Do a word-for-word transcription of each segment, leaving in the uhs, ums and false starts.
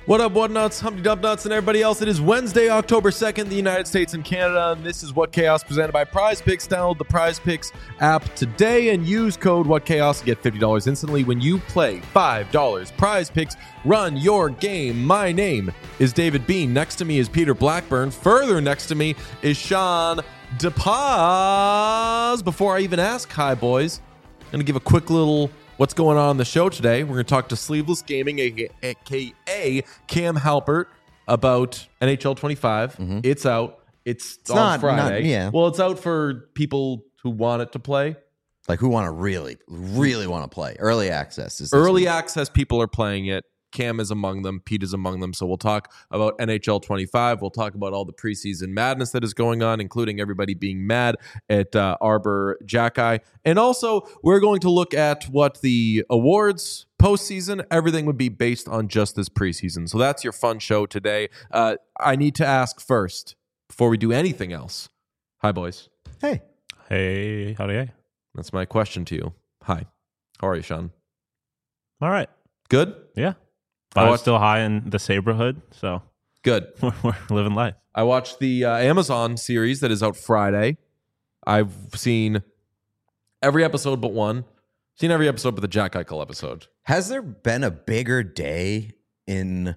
What up, what nuts, Humpty Dump Nuts, and everybody else? It is Wednesday, October second, in the United States and Canada, and this is What Chaos presented by Prize Picks. Download the Prize Picks app today and use code What Chaos to get fifty dollars instantly when you play five dollars. Prize Picks, run your game. My name is David Bean. Next to me is Peter Blackburn. Further next to me is Sean DePaz. Before I even ask, hi, boys, I'm going to give a quick little what's going on on the show today. We're going to talk to Sleeveless Gaming, a k a. Cam Halpert, about N H L twenty-five. Mm-hmm. It's out. It's, it's on not, Friday. Not, yeah. Well, it's out for people who want it to play. Like who want to really, really want to play. Early access. Is Early one. access people are playing it. Cam is among them. Pete is among them. So we'll talk about N H L twenty-five. We'll talk about all the preseason madness that is going on, including everybody being mad at uh, Arbor Jackeye. And also, we're going to look at what the awards, postseason, everything would be based on just this preseason. So that's your fun show today. Uh, I need to ask first, before we do anything else. Hi, boys. Hey. Hey, howdy, hey. That's my question to you. Hi. How are you, Sean? All right. Good? Yeah. I was still high in the Saberhood, so good. We're living life. I watched the uh, Amazon series that is out Friday. I've seen every episode but one. Seen every episode but the Jack Eichel episode. Has there been a bigger day in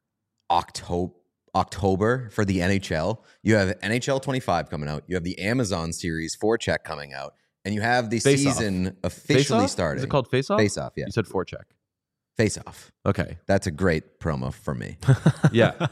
October October for the N H L? You have N H L twenty-five coming out. You have the Amazon series Forecheck coming out, and you have the Face season off. officially Face starting. Is it called Face Off? Face Off. Yeah. You said Forecheck. Face Off. Okay. That's a great promo for me. Yeah.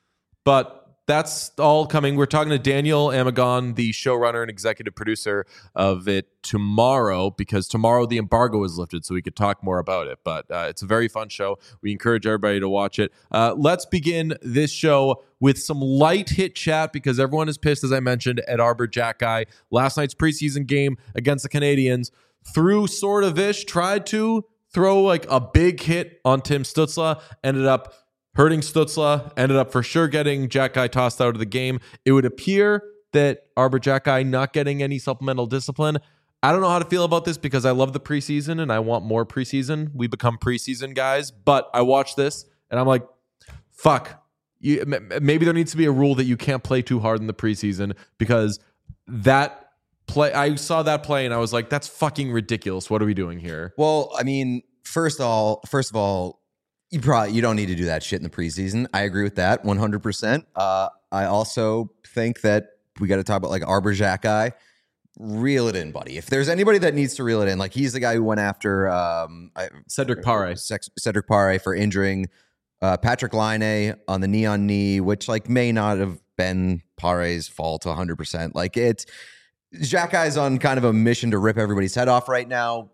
But that's all coming. We're talking to Daniel Amagon, the showrunner and executive producer of it, tomorrow, because tomorrow the embargo is lifted, so we could talk more about it. But uh, it's a very fun show. We encourage everybody to watch it. Uh, let's begin this show with some light hit chat, because everyone is pissed, as I mentioned, at Arbor Jackeye. Last night's preseason game against the Canadiens, threw sort of ish, tried to throw like a big hit on Tim Stützle, ended up hurting Stützle, ended up for sure getting Jackeye tossed out of the game. It would appear that Arbor Jackeye not getting any supplemental discipline. I don't know how to feel about this, because I love the preseason and I want more preseason. We become preseason guys, but I watch this and I'm like, fuck. You, maybe there needs to be a rule that you can't play too hard in the preseason, because that play, I saw that play and I was like, that's fucking ridiculous. What are we doing here? Well, I mean, first of all, first of all, you probably you don't need to do that shit in the preseason. I agree with that one hundred percent. Uh, I also think that we got to talk about like Arbor Jackeye. Reel it in, buddy. If there's anybody that needs to reel it in, like he's the guy who went after um, I, Cedric Pare. Cedric Pare for injuring uh, Patrick Laine on the knee on knee, which like may not have been Pare's fault one hundred percent. Like it's Jackeye's on kind of a mission to rip everybody's head off right now.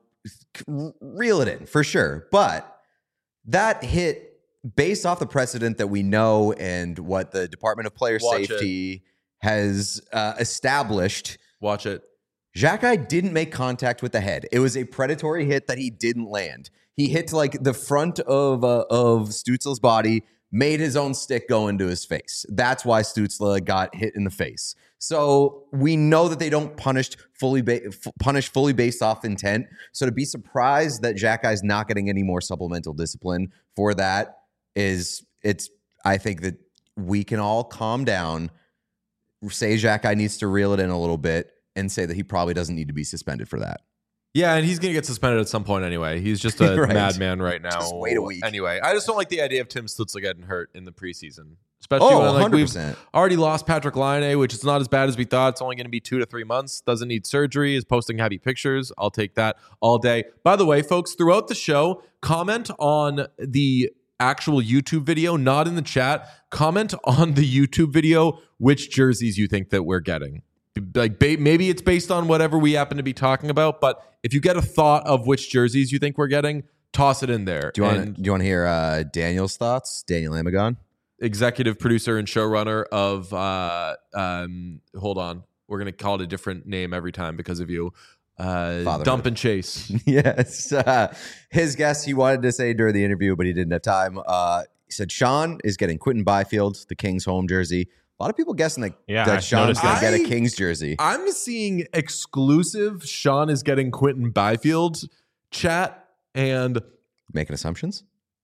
Reel it in for sure. But that hit, based off the precedent that we know and what the Department of Player Watch Safety it. has uh, established. Watch it. Jackeye didn't make contact with the head. It was a predatory hit that he didn't land. He hit like the front of uh, of Stützle's body, made his own stick go into his face. That's why Stützle got hit in the face. So we know that they don't punish fully ba- f- punish fully based off intent. So to be surprised that Jackeye's not getting any more supplemental discipline for that is it's. I think that we can all calm down, say Jackeye needs to reel it in a little bit, and say that he probably doesn't need to be suspended for that. Yeah, and he's going to get suspended at some point anyway. He's just a right. madman right now. Just wait a week. Anyway, I just don't like the idea of Tim Stützle getting hurt in the preseason. Especially oh, when like, one hundred percent. We've already lost Patrick Laine, which is not as bad as we thought. It's only going to be two to three months. Doesn't need surgery. Is posting happy pictures. I'll take that all day. By the way, folks, throughout the show, comment on the actual YouTube video, not in the chat. Comment on the YouTube video which jerseys you think that we're getting. Like maybe it's based on whatever we happen to be talking about, but if you get a thought of which jerseys you think we're getting, toss it in there. Do you want do you want to hear uh, Daniel's thoughts? Daniel Amagon, executive producer and showrunner of uh, um, hold on, we're gonna call it a different name every time because of you. Uh, Dump and Chase. Yes, uh, his guess he wanted to say during the interview, but he didn't have time. Uh, he said Sean is getting Quentin Byfield, the Kings home jersey. A lot of people guessing that, yeah, that Sean's going to get a I- Kings jersey. I'm seeing exclusive Sean is getting Quentin Byfield chat, and Making assumptions?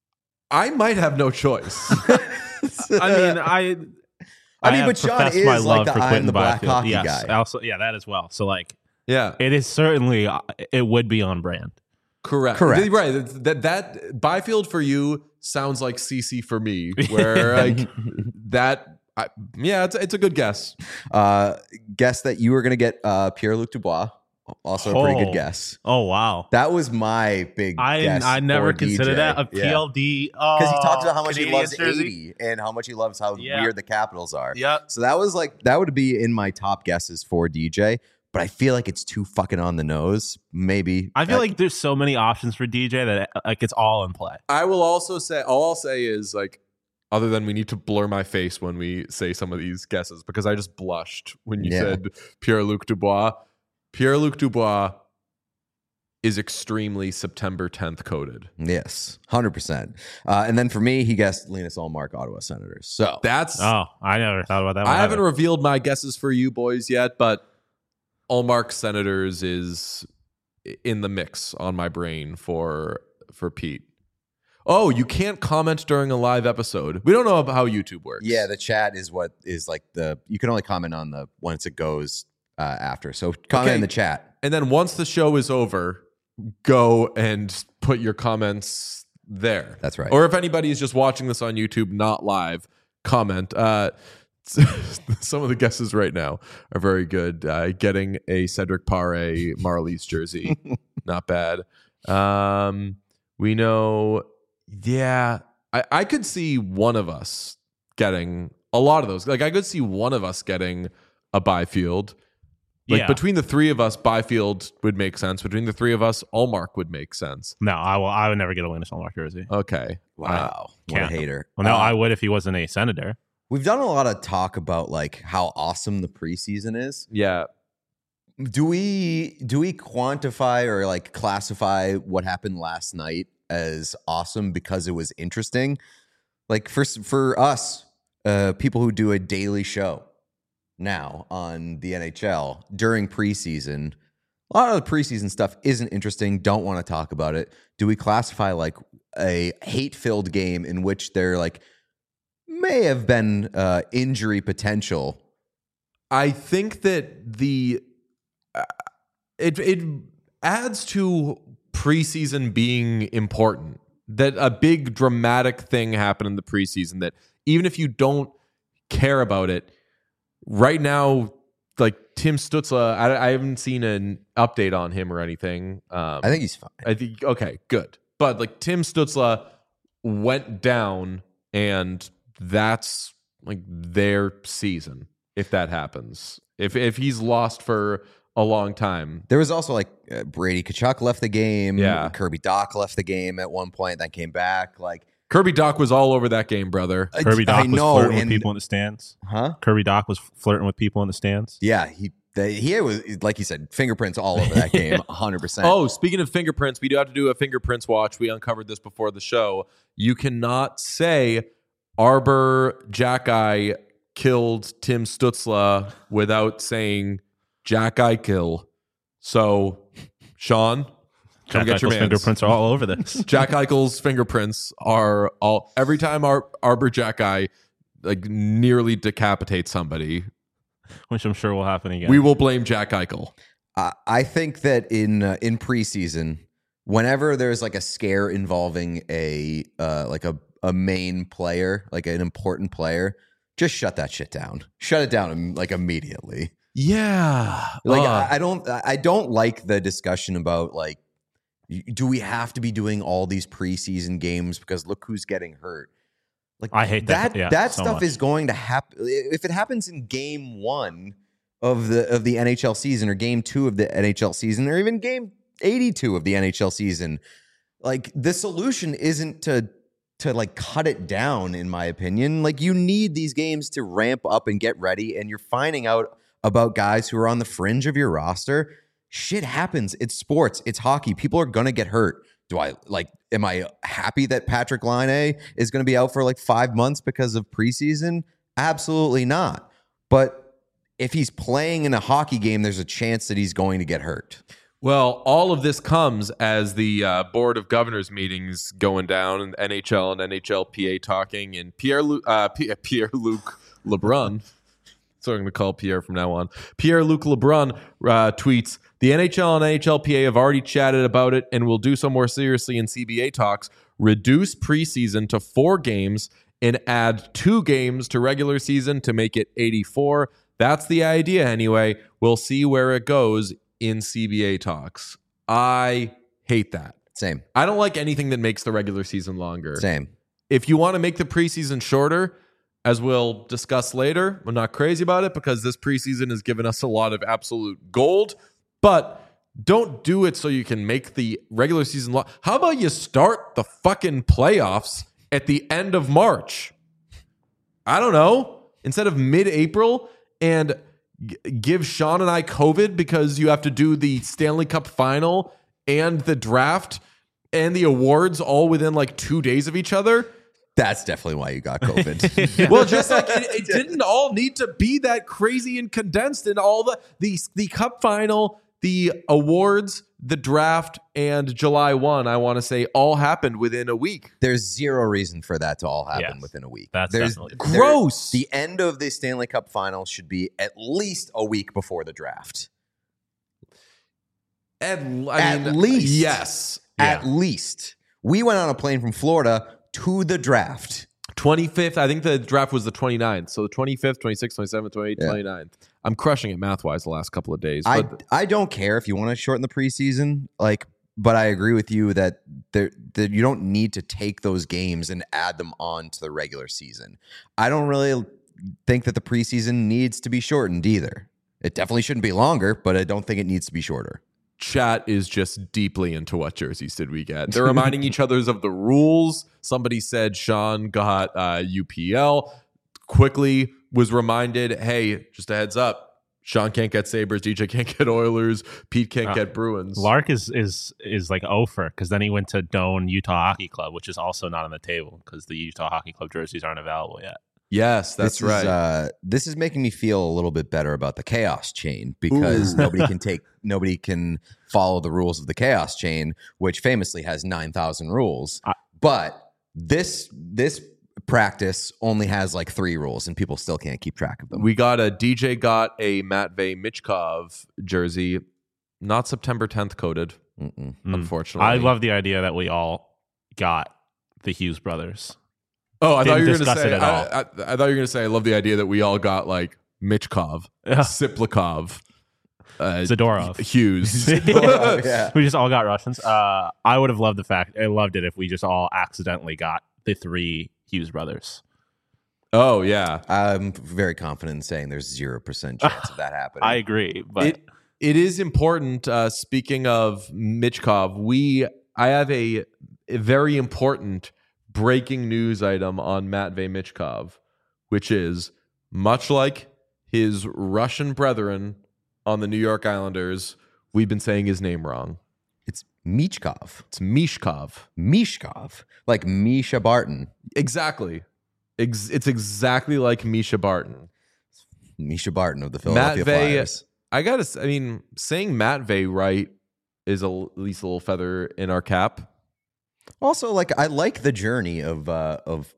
I might have no choice. I mean, I. I mean, have but Sean professed is my like love the for I'm Quentin the black Byfield. hockey Yes, guy. also, yeah, that as well. So, like, Yeah, it is certainly, it would be on brand. correct. Correct. Right. That that Byfield for you sounds like C C for me. Where like that. I, yeah, it's it's a good guess. Uh, guess that you were going to get uh, Pierre-Luc Dubois. Also a pretty Oh. good guess. Oh, wow. That was my big I guess. I never for D J. considered that a Yeah. P L D. Oh, Because he talks about how much Canadiens he loves jersey. eighty and how much he loves how Yeah. weird the Capitals are. Yep. So that was like, that would be in my top guesses for D J, but I feel like it's too fucking on the nose. Maybe. I feel Uh, like there's so many options for D J that like it's all in play. I will also say, all I'll say is like, other than we need to blur my face when we say some of these guesses because I just blushed when you Yeah. said Pierre-Luc Dubois. Pierre-Luc Dubois is extremely September tenth coded. Yes, one hundred percent. Uh, and then for me, he guessed Linus Ullmark, Ottawa Senators. So That's Oh, I never thought about that one. I haven't either. revealed my guesses for you boys yet, but Ullmark Senators is in the mix on my brain for for Pete. Oh, you can't comment during a live episode. We don't know about how YouTube works. yeah, the chat is what is like the, you can only comment on the, once it goes uh, after. So comment Okay. in the chat. And then once the show is over, go and put your comments there. That's right. Or if anybody is just watching this on YouTube, not live, comment. Uh, some of the guesses right now are very good. Uh, getting a Cedric Paré Marlies jersey, not bad. Um, we know, yeah, I, I could see one of us getting a lot of those. Like I could see one of us getting a Byfield. Like Yeah. between the three of us, Byfield would make sense. Between the three of us, Ullmark would make sense. No, I will. I would never get a Linus Ullmark jersey. Okay. Wow. what a can't. hater. Well, no, Uh, I would if he wasn't a Senator. We've done a lot of talk about like how awesome the preseason is. Yeah. Do we do we quantify or like classify what happened last night as awesome because it was interesting? Like for for us, uh, people who do a daily show now on the N H L during preseason, a lot of the preseason stuff isn't interesting. Don't want to talk about it. Do we classify like a hate-filled game in which there like may have been uh, injury potential? I think that the uh, it it adds to preseason being important. That a big dramatic thing happened in the preseason that even if you don't care about it, right now, like Tim Stützle, I, I haven't seen an update on him or anything. Um, I think he's fine. I think okay, good. But like Tim Stützle went down, and that's like their season if that happens. If if he's lost for a long time. There was also like uh, Brady Tkachuk left the game. Yeah. Kirby Doc left the game at one point, then came back. Like Kirby Doc was all over that game, brother. I- Kirby Doc I was know, flirting with and- people in the stands. Huh? Kirby Doc was flirting with people in the stands. Yeah, he the, he was like you said, fingerprints all over that game, one hundred percent. Oh, speaking of fingerprints, we do have to do a fingerprints watch. We uncovered this before the show. You cannot say Arbor Jackeye killed Tim Stützle without saying Jackeye kill. So, Sean, come Jack get your Eichel's mans. fingerprints are all over this. Jack Eichel's fingerprints are all every time our Arbor Jackeye like nearly decapitates somebody, Which I'm sure will happen again. we will blame Jack Eichel. I, I think that in uh, in preseason, whenever there's like a scare involving a uh, like a a main player, like an important player, just shut that shit down. Shut it down um, like immediately. Yeah, Like Uh, I, I don't I don't like the discussion about like y- do we have to be doing all these preseason games because look who's getting hurt. Like I hate that, yeah, that so stuff much. is going to happen if it happens in game one of the of the N H L season or game two of the N H L season or even game eighty-two of the N H L season. Like the solution isn't to to like cut it down, in my opinion. Like you need these games to ramp up and get ready, and you're finding out about guys who are on the fringe of your roster. Shit happens. It's sports. It's hockey. People are gonna get hurt. Do I like? Am I happy that Patrick Laine is going to be out for like five months because of preseason? Absolutely not. But if he's playing in a hockey game, there's a chance that he's going to get hurt. Well, all of this comes as the uh, Board of Governors meetings going down, and N H L and N H L P A talking, and Pierre Lu- uh, P- Pierre-Luc Lebrun, so I'm going to call Pierre from now on, Pierre-Luc Lebrun uh, tweets, the N H L and N H L P A have already chatted about it and will do so more seriously in C B A talks, reduce preseason to four games and add two games to regular season to make it eighty-four. That's the idea anyway. We'll see where it goes in C B A talks. I hate that. Same. I don't like anything that makes the regular season longer. Same. If you want to make the preseason shorter, as we'll discuss later, I'm not crazy about it because this preseason has given us a lot of absolute gold, but don't do it so you can make the regular season long. How about you start the fucking playoffs at the end of March? I don't know. Instead of mid-April, and g- give Sean and I COVID because you have to do the Stanley Cup final and the draft and the awards all within like two days of each other. That's definitely why you got COVID. Well, just like it, it didn't all need to be that crazy and condensed, and all the the the cup final, the awards, the draft, and July first, I want to say, all happened within a week. There's zero reason for that to all happen Yes. within a week. That's There's definitely- there- Gross. The end of the Stanley Cup final should be at least a week before the draft. At, I At mean, least. yes. At least. We went on a plane from Florida to the draft. twenty-fifth, I think the draft was the twenty-ninth. So the twenty-fifth, twenty-sixth, twenty-seventh, twenty-eighth, Yeah. twenty-ninth. I'm crushing it math-wise the last couple of days. I, But I don't care if you want to shorten the preseason, like, but I agree with you that there that you don't need to take those games and add them on to the regular season. I don't really think that the preseason needs to be shortened either. It definitely shouldn't be longer, but I don't think it needs to be shorter. chat is just deeply into what jerseys did we get. They're reminding each others of the rules. Somebody said Sean got uh, U P L. Quickly was reminded, hey, just a heads up, Sean can't get Sabres, D J can't get Oilers, Pete can't Uh, get Bruins. Lark is is is like over because then he went to Doane Utah Hockey Club, which is also not on the table because the Utah Hockey Club jerseys aren't available yet. Yes, that's this right. Is, uh, this is making me feel a little bit better about the chaos chain because Ooh. nobody can take, nobody can follow the rules of the chaos chain, which famously has nine thousand rules. I- but this this practice only has like three rules, and people still can't keep track of them. We got a D J got a Matvey Michkov jersey, not September tenth coded, Mm-mm. Mm. unfortunately. I love the idea that we all got the Hughes brothers. Oh, I thought Didn't you were going to discuss say. it at I, all. I, I thought you were going to say. I love the idea that we all got like Michkov, Yeah. Siplikov, uh, Zadorov. Hughes. yeah. We just all got Russians. Uh, I would have loved the fact. I loved it if we just all accidentally got the three Hughes brothers. Oh yeah, I'm very confident in saying there's zero percent chance of that happening. I agree, but it it is important. Uh, speaking of Michkov, we I have a, a very important breaking news item on Matvey Michkov, which is much like his Russian brethren on the New York Islanders, we've been saying his name wrong. It's Michkov. It's Mishkov. Mishkov. Like Misha Barton. Exactly. Ex- it's exactly like Misha Barton. Misha Barton of the Philadelphia Matvey, Flyers. I gotta. s- I mean, saying Matvey right is a, at least a little feather in our cap. Also, like I like the journey of uh, of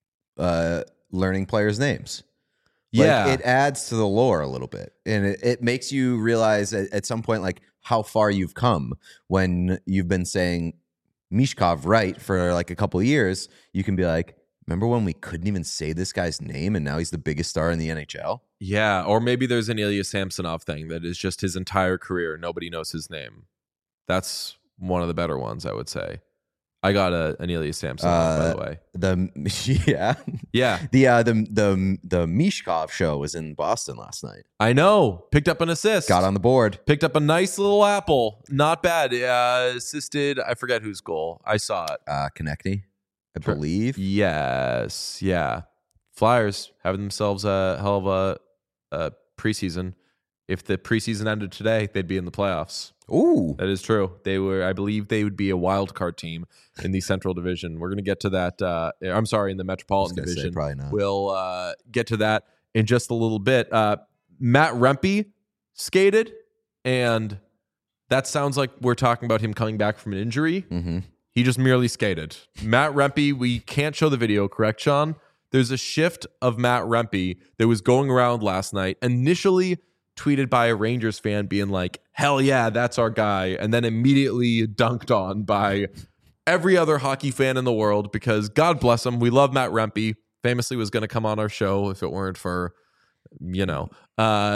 uh, learning players' names. Like, Yeah. it adds to the lore a little bit, and it, it makes you realize at, at some point like how far you've come when you've been saying Mishkov right for like a couple of years. You can be like, remember when we couldn't even say this guy's name, and now he's the biggest star in the N H L? Yeah, or maybe there's an Ilya Samsonov thing that is just his entire career. Nobody knows his name. That's one of the better ones, I would say. I got a, an Ilya Samsonov, by Uh, the way. The yeah, Yeah, the uh, the the the Mishkov show was in Boston last night. I know. Picked up an assist. Got on the board. Picked up a nice little apple. Not bad. Uh, assisted, I forget whose goal. I saw it. Uh, Konechny, I Sure. believe. Yes. Yeah. Flyers having themselves a hell of a, a preseason. If the preseason ended today, they'd be in the playoffs. Ooh, That is true. They were, I believe, they would be a wild card team in the Central Division. We're going to get to that. Uh, I'm sorry, in the Metropolitan I was gonna say, Division. probably not. We'll uh, get to that in just a little bit. Uh, Matt Rempe skated, and that sounds like we're talking about him coming back from an injury. Mm-hmm. He just merely skated. Matt Rempe, we can't show the video, correct, Sean? There's a shift of Matt Rempe that was going around last night, initially tweeted by a Rangers fan being like, hell yeah, that's our guy, and then immediately dunked on by every other hockey fan in the world because God bless him, we love Matt Rempe. Famously was going to come on our show if it weren't for, you know, uh,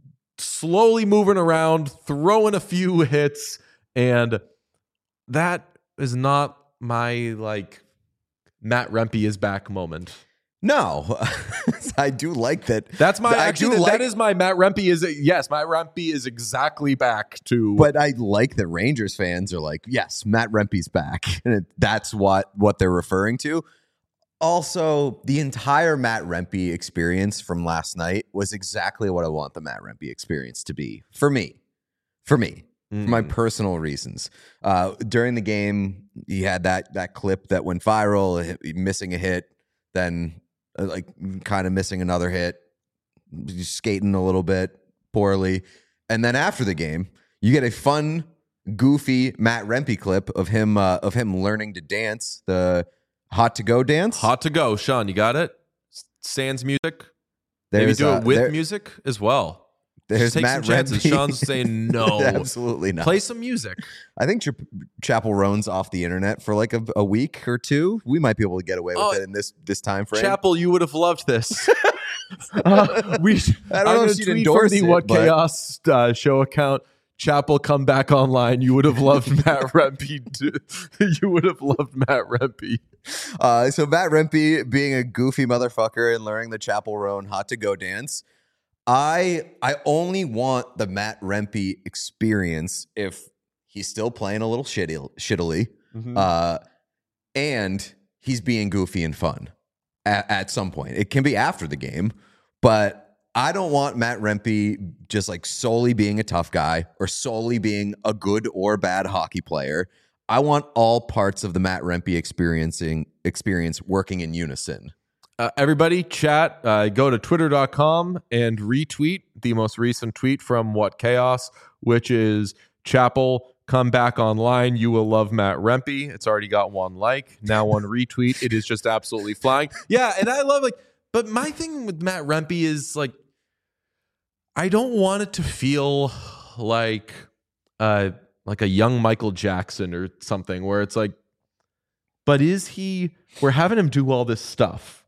slowly moving around, throwing a few hits, and that is not my like Matt Rempe is back moment. No, I do like that. That's my I actually do like, that is my Matt Rempe is yes, Matt Rempe is exactly back to. But I like that Rangers fans are like, yes, Matt Rempe's back, and it, that's what what they're referring to. Also, the entire Matt Rempe experience from last night was exactly what I want the Matt Rempe experience to be for me. For me. Mm. For my personal reasons. Uh, during the game, he had that that clip that went viral, hit, missing a hit, then uh, like kind of missing another hit, skating a little bit poorly. And then after the game, you get a fun, goofy Matt Rempe clip of him uh, of him learning to dance, the Hot to Go dance. Hot to Go, Sean, you got it? Sans music? There's, Maybe do uh, it with there, music as well. There's Just take Matt some chances. Rempe. Sean's saying no. Absolutely not. Play some music. I think Ch- Chapel Roan's off the internet for like a, a week or two. We might be able to get away with Oh, it in this this time frame. Chapel, you would have loved this. uh, we, I don't I'm know gonna if she'd tweet endorse from the it, What but- Chaos uh, show account. Chapel, come back online. You would have loved Matt Rempe. To, you would have loved Matt Rempe. Uh, so Matt Rempe being a goofy motherfucker and learning the Chapel Roan Hot to Go dance. I I only want the Matt Rempe experience if he's still playing a little shitty, shittily, Mm-hmm. uh, and he's being goofy and fun at, at some point. It can be after the game, but I don't want Matt Rempe just like solely being a tough guy or solely being a good or bad hockey player. I want all parts of the Matt Rempe experiencing experience working in unison. Uh, everybody, chat, uh, go to twitter dot com and retweet the most recent tweet from What Chaos, which is Chapel, come back online. You will love Matt Rempe. It's already got one like, now one retweet. It is just absolutely flying. Yeah, and I love like, but my thing with Matt Rempe is like, I don't want it to feel like uh, like a young Michael Jackson or something where it's like, but is he, we're having him do all this stuff.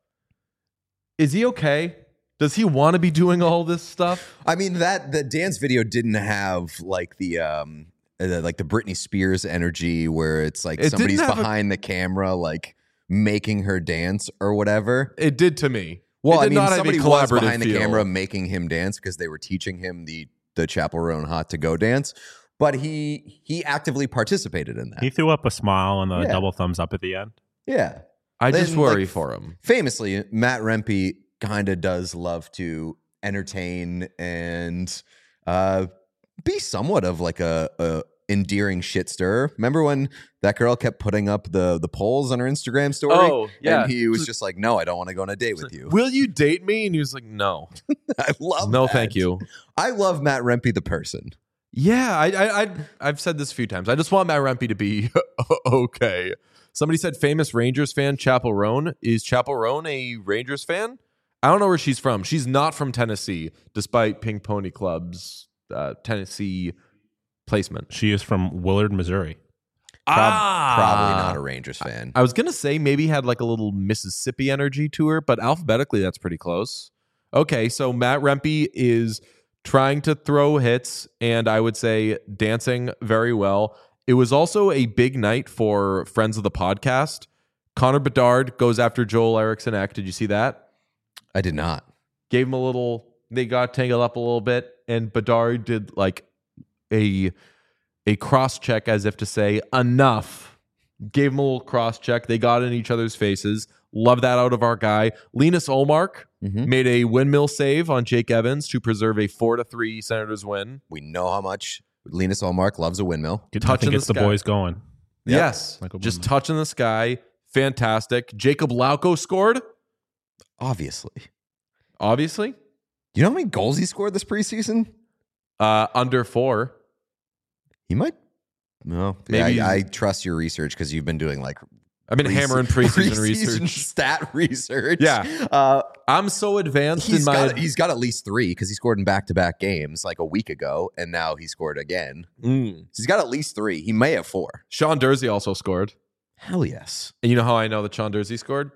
Is he okay? Does he want to be doing all this stuff? I mean, that the dance video didn't have like the um uh, like the Britney Spears energy where it's like It didn't somebody's have a- behind the camera like making her dance or whatever. It did to me. Well, It I did mean, not have a somebody was collaborative behind the feel. camera making him dance because they were teaching him the the Chapel Roan Hot to Go dance, but he he actively participated in that. He threw up a smile and a Yeah. double thumbs up at the end. yeah. I just Then, worry like, for him. Famously, Matt Rempe kind of does love to entertain and uh, be somewhat of like a, a endearing shit stirrer. Remember when that girl kept putting up the the polls on her Instagram story? Oh, yeah. And he was just like, "No, I don't want to go on a date with you." Will you date me? And he was like, no. I love No, that. thank you. I love Matt Rempe the person. Yeah, I, I, I, I've said this a few times. I just want Matt Rempe to be okay. Somebody said famous Rangers fan Chapel Roan. Is Chapel Roan a Rangers fan? I don't know where she's from. She's not from Tennessee, despite Pink Pony Club's uh, Tennessee placement. She is from Willard, Missouri. Prob- Ah! Probably not a Rangers fan. I was gonna say maybe had like a little Mississippi energy to her, but alphabetically that's pretty close. Okay, so Matt Rempe is trying to throw hits, and I would say dancing very well. It was also a big night for friends of the podcast. Connor Bedard goes after Joel Eriksson Ek. Did you see that? I did not. Gave him a little. They got tangled up a little bit, and Bedard did like a a cross check as if to say enough. Gave him a little cross check. They got in each other's faces. Love that out of our guy. Linus Olmark Mhm. made a windmill save on Jake Evans to preserve a four to three Senators win. We know how much Linus Olmark loves a windmill. Good Touching touching gets the the sky. boys going. Yep. Yes, Like a just windmill. touching the sky. Fantastic. Jacob Lauko scored. Obviously. Obviously, You know how many goals he scored this preseason? uh, under four. He might. No, Maybe- I, I trust your research because you've been doing like I've been hammering preseason preseason research. stat research. Yeah. uh, I'm so advanced he's in my. got he's got at least three because he scored in back to back games like a week ago, and now he scored again. Mm. So he's got at least three. He may have four. Sean Dursey also scored. Hell yes. And you know how I know that Sean Dursey scored?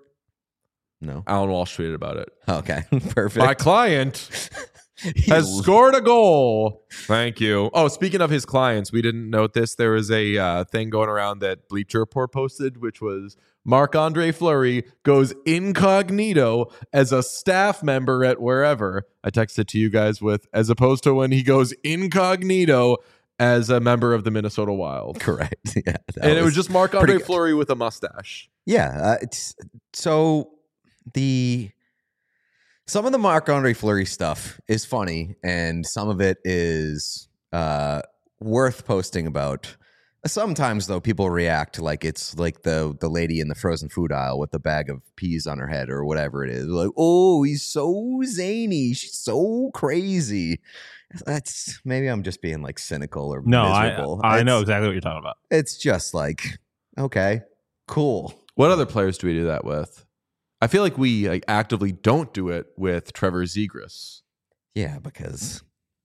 No. Alan Walsh tweeted about it. Okay. Perfect. My client He has l- scored a goal. Thank you. Oh, speaking of his clients, we didn't note this. There was a uh, thing going around that Bleacher Report posted, which was Marc-Andre Fleury goes incognito as a staff member at wherever. I texted to you guys with, as opposed to when he goes incognito as a member of the Minnesota Wild. Correct. Yeah. that And it was just Marc-Andre pretty good. Fleury with a mustache. Yeah. Uh, it's so the some of the Marc-Andre Fleury stuff is funny, and some of it is uh, worth posting about. Sometimes though, people react like it's like the the lady in the frozen food aisle with the bag of peas on her head or whatever it is. Like, oh, he's so zany, she's so crazy. That's maybe I'm just being like cynical or No, miserable. I I know It's- exactly what you're talking about. It's just like, okay, cool. What other players do we do that with? I feel like we like actively don't do it with Trevor Zegras. Yeah, because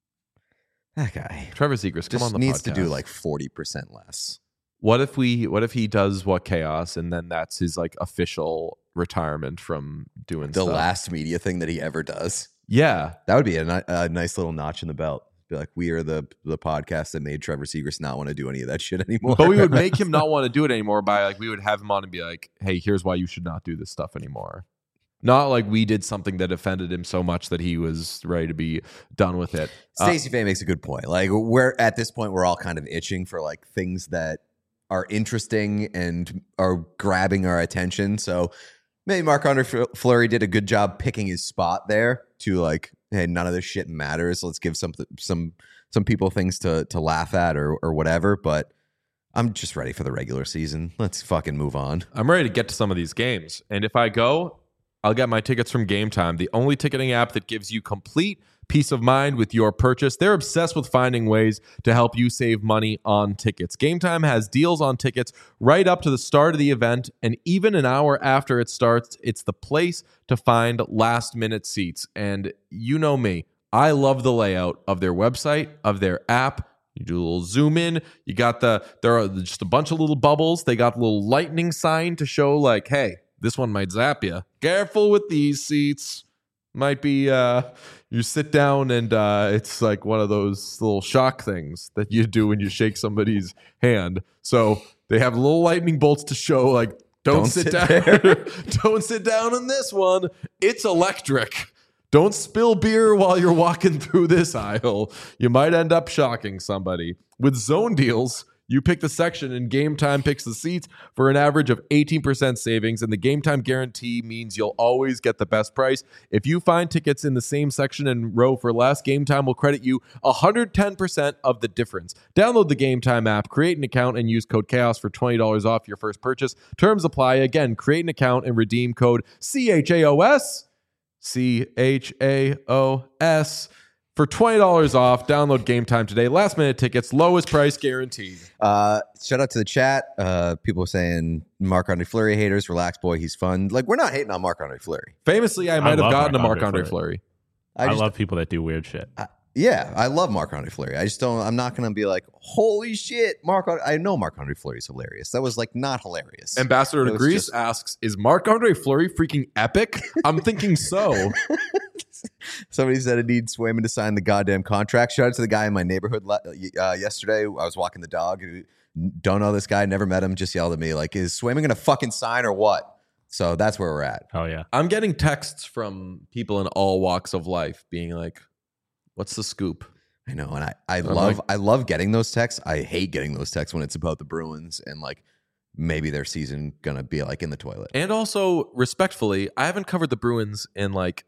that guy Trevor Zegras, come just on the needs to do podcast. like forty percent less. What if we? What if he does what chaos, and then that's his like official retirement from doing The stuff? last media thing that he ever does. Yeah, That would be a, ni- a nice little notch in the belt. Be like, we are the the podcast that made Trevor Zegras not want to do any of that shit anymore. but we would make him not want to do it anymore by like we would have him on and be like, "Hey, here's why you should not do this stuff anymore." Not like we did something that offended him so much that he was ready to be done with it. Uh, Stacey Faye makes a good point. Like we're at this point, we're all kind of itching for like things that are interesting and are grabbing our attention. So maybe Marc-Andre Fleury did a good job picking his spot there to like, hey, none of this shit matters. Let's give some some some people things to to laugh at or or whatever. But I'm just ready for the regular season. Let's fucking move on. I'm ready to get to some of these games. And if I go, I'll get my tickets from Game Time, the only ticketing app that gives you complete peace of mind with your purchase. They're obsessed with finding ways to help you save money on tickets. Game Time has deals on tickets right up to the start of the event, and even an hour after it starts, it's the place to find last-minute seats. And you know me, I love the layout of their website, of their app. You do a little zoom in. You got the, there are just a bunch of little bubbles. They got a little lightning sign to show like, hey, this one might zap you. Careful with these seats. Might be, uh, you sit down and uh, it's like one of those little shock things that you do when you shake somebody's hand. So they have little lightning bolts to show like, don't, Don't sit, sit down. there. Don't sit down on this one. It's electric. Don't spill beer while you're walking through this aisle. You might end up shocking somebody. With Zone Deals, you pick the section and Game Time picks the seats for an average of eighteen percent savings. And the Game Time guarantee means you'll always get the best price. If you find tickets in the same section and row for less, Game Time will credit you one hundred ten percent of the difference. Download the Game Time app, create an account, and use code CHAOS for twenty dollars off your first purchase. Terms apply. Again, create an account and redeem code C H A O S. C H A O S. For twenty dollars off, download Game Time today. Last minute tickets, lowest price guaranteed. Uh, shout out to the chat. Uh, people saying Marc-Andre Fleury haters, relax, boy, he's fun. Like we're not hating on Marc-Andre Fleury. Famously, I might have love gotten a Marc-Andre Marc-Andre Fleury. I, just, love people that do weird shit. I, yeah, I love Marc-Andre Fleury. I just don't. I'm not gonna be like, holy shit, Marc. I know Marc-Andre Fleury is hilarious. That was like not hilarious. Ambassador to It was Greece just- asks, is Marc-Andre Fleury freaking epic? I'm thinking so. Somebody said I need Swayman to sign the goddamn contract. Shout out to the guy in my neighborhood le- uh, yesterday. I was walking the dog. Don't know this guy. Never met him. Just yelled at me like, "Is Swayman gonna fucking sign or what?" So that's where we're at. Oh yeah. I'm getting texts from people in all walks of life being like, what's the scoop? I know, and I, I I'm love like- I love getting those texts. I hate getting those texts when it's about the Bruins and like maybe their season gonna be like in the toilet. And also, respectfully, I haven't covered the Bruins in like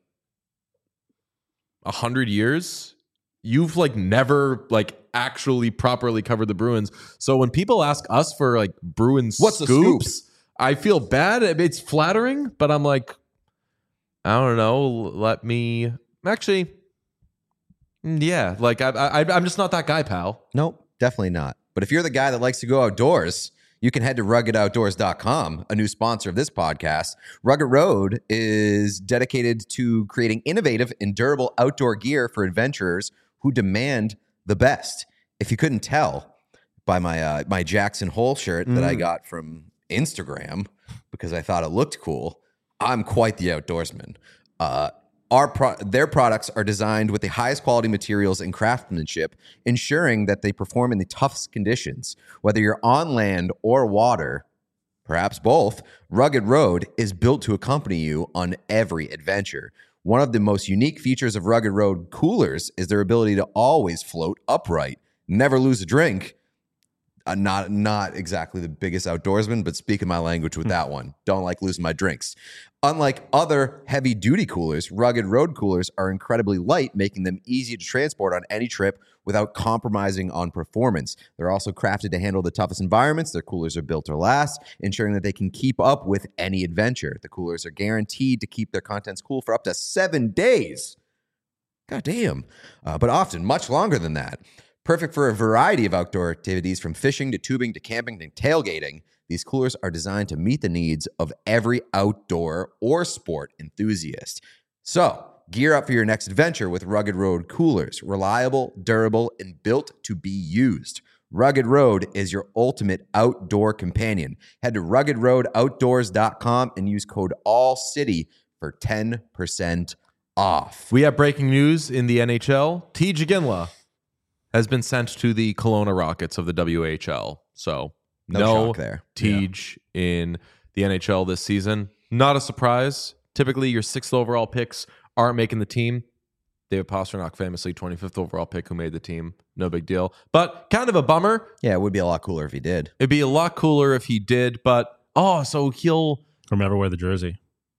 a hundred years. You've like never like actually properly covered the Bruins. So when people ask us for like Bruins What's the scoops, I feel bad. It's flattering, but I'm like, I don't know. Let me actually, yeah. Like I, I, I'm just not that guy, pal. Nope, definitely not. But if you're the guy that likes to go outdoors, you can head to rugged outdoors dot com, a new sponsor of this podcast. Rugged Road is dedicated to creating innovative and durable outdoor gear for adventurers who demand the best. If you couldn't tell by my uh, my Jackson Hole shirt mm. that I got from Instagram because I thought it looked cool, I'm quite the outdoorsman. Uh, our pro- their products are designed with the highest quality materials and craftsmanship, ensuring that they perform in the toughest conditions. Whether you're on land or water, perhaps both, Rugged Road is built to accompany you on every adventure. One of the most unique features of Rugged Road coolers is their ability to always float upright, never lose a drink. Uh, not not exactly the biggest outdoorsman, but speaking my language with that one. Don't like losing my drinks. Unlike other heavy-duty coolers, Rugged Road coolers are incredibly light, making them easy to transport on any trip without compromising on performance. They're also crafted to handle the toughest environments. Their coolers are built to last, ensuring that they can keep up with any adventure. The coolers are guaranteed to keep their contents cool for up to seven days. God damn. Uh, but often much longer than that. Perfect for a variety of outdoor activities, from fishing to tubing to camping to tailgating. These coolers are designed to meet the needs of every outdoor or sport enthusiast. So, gear up for your next adventure with Rugged Road coolers. Reliable, durable, and built to be used. Rugged Road is your ultimate outdoor companion. Head to rugged road outdoors dot com and use code ALLCITY for ten percent off. We have breaking news in the N H L. T. Ginla has been sent to the Kelowna Rockets of the W H L. So no, no shock there. Tej yeah. in the N H L this season. Not a surprise. Typically, your sixth overall picks aren't making the team. David Pastrnak, famously twenty-fifth overall pick, who made the team. No big deal. But kind of a bummer. Yeah, it would be a lot cooler if he did. It'd be a lot cooler if he did. But, oh, so he'll... Remember wear the jersey.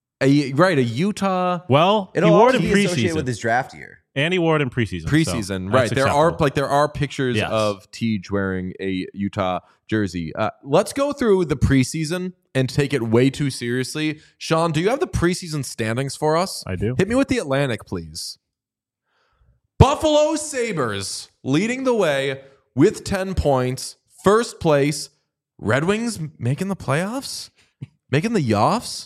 A, right, a Utah... Well, It'll he wore it in be associated preseason. with his draft year. And he wore it in preseason. Preseason, so right. There are acceptable. like there are pictures yes. of Tej wearing a Utah jersey. Uh, let's go through the preseason and take it way too seriously. Sean, do you have the preseason standings for us? I do. Hit me with the Atlantic, please. Buffalo Sabres leading the way with ten points. First place. Red Wings making the playoffs? Making the Yoffs?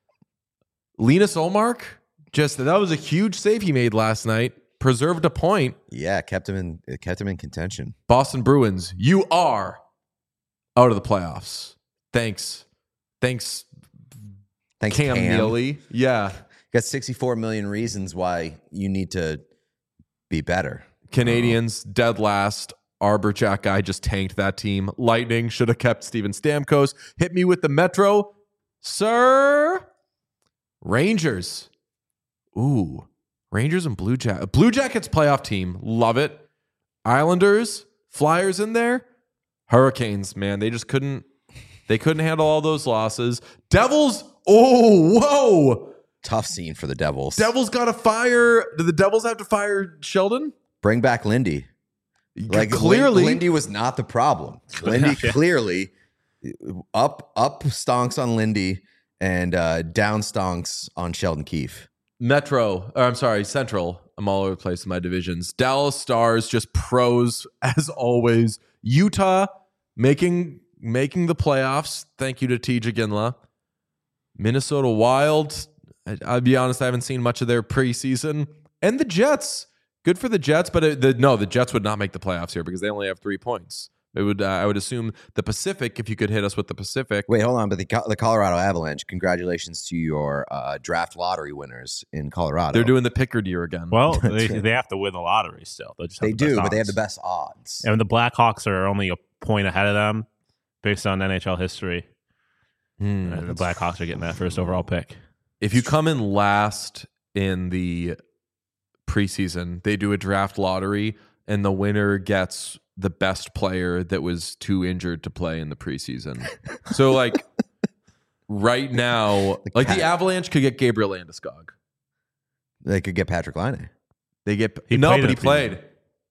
Linus Olmark? Just that was a huge save he made last night. Preserved a point. Yeah, kept him in it kept him in contention. Boston Bruins, you are out of the playoffs. Thanks. Thanks, Thanks, Cam, Cam. Neely. Yeah. Got sixty-four million reasons why you need to be better. Canadians, oh. dead last. Arbor Jack guy just tanked that team. Lightning should have kept Steven Stamkos. Hit me with the Metro. Sir. Rangers. Ooh, Rangers and Blue Jackets. Blue Jackets playoff team. Love it. Islanders, Flyers in there. Hurricanes, man, they just couldn't, they couldn't handle all those losses. Devils, oh, whoa. Tough scene for the Devils. Devils got to fire. Did the Devils have to fire Sheldon? Bring back Lindy. Like clearly. Lindy was not the problem. Lindy clearly up, up stonks on Lindy and uh, down stonks on Sheldon Keefe. Metro, or I'm sorry, Central. I'm all over the place in my divisions. Dallas Stars, just pros as always. Utah making making the playoffs. Thank you to Tej Ginla. Minnesota Wild. I, I'll be honest, I haven't seen much of their preseason. And the Jets. Good for the Jets, but it, the, no, the Jets would not make the playoffs here because they only have three points. It would, uh, I would assume the Pacific, if you could hit us with the Pacific. Wait, hold on. But the, the Colorado Avalanche, congratulations to your uh, draft lottery winners in Colorado. They're doing the Pickard year again. Well, they, they have to win the lottery still. Just they the do, but odds. they have the best odds. And the Blackhawks are only a point ahead of them based on N H L history. Hmm, and the Blackhawks are getting that first overall pick. If you come in last in the preseason, they do a draft lottery, and the winner gets the best player that was too injured to play in the preseason. So, like, right now, the like cat. the Avalanche could get Gabriel Landeskog. They could get Patrick Laine. They get He no, played but he in the played.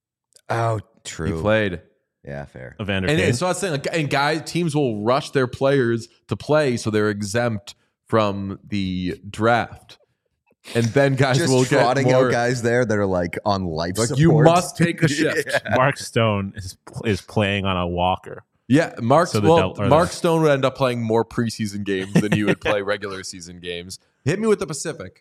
Oh, true. He played. Yeah, fair. Evander And, Kane. and so I was saying, like, and guys, teams will rush their players to play, so they're exempt from the draft. and then guys Just will get trotting more. out guys there that are like on life Like support. you must take a shift. Yeah. Mark Stone is is playing on a walker. Yeah, Mark. So the well, del- or Mark the- Stone would end up playing more preseason games than he would play regular season games. Hit me with the Pacific.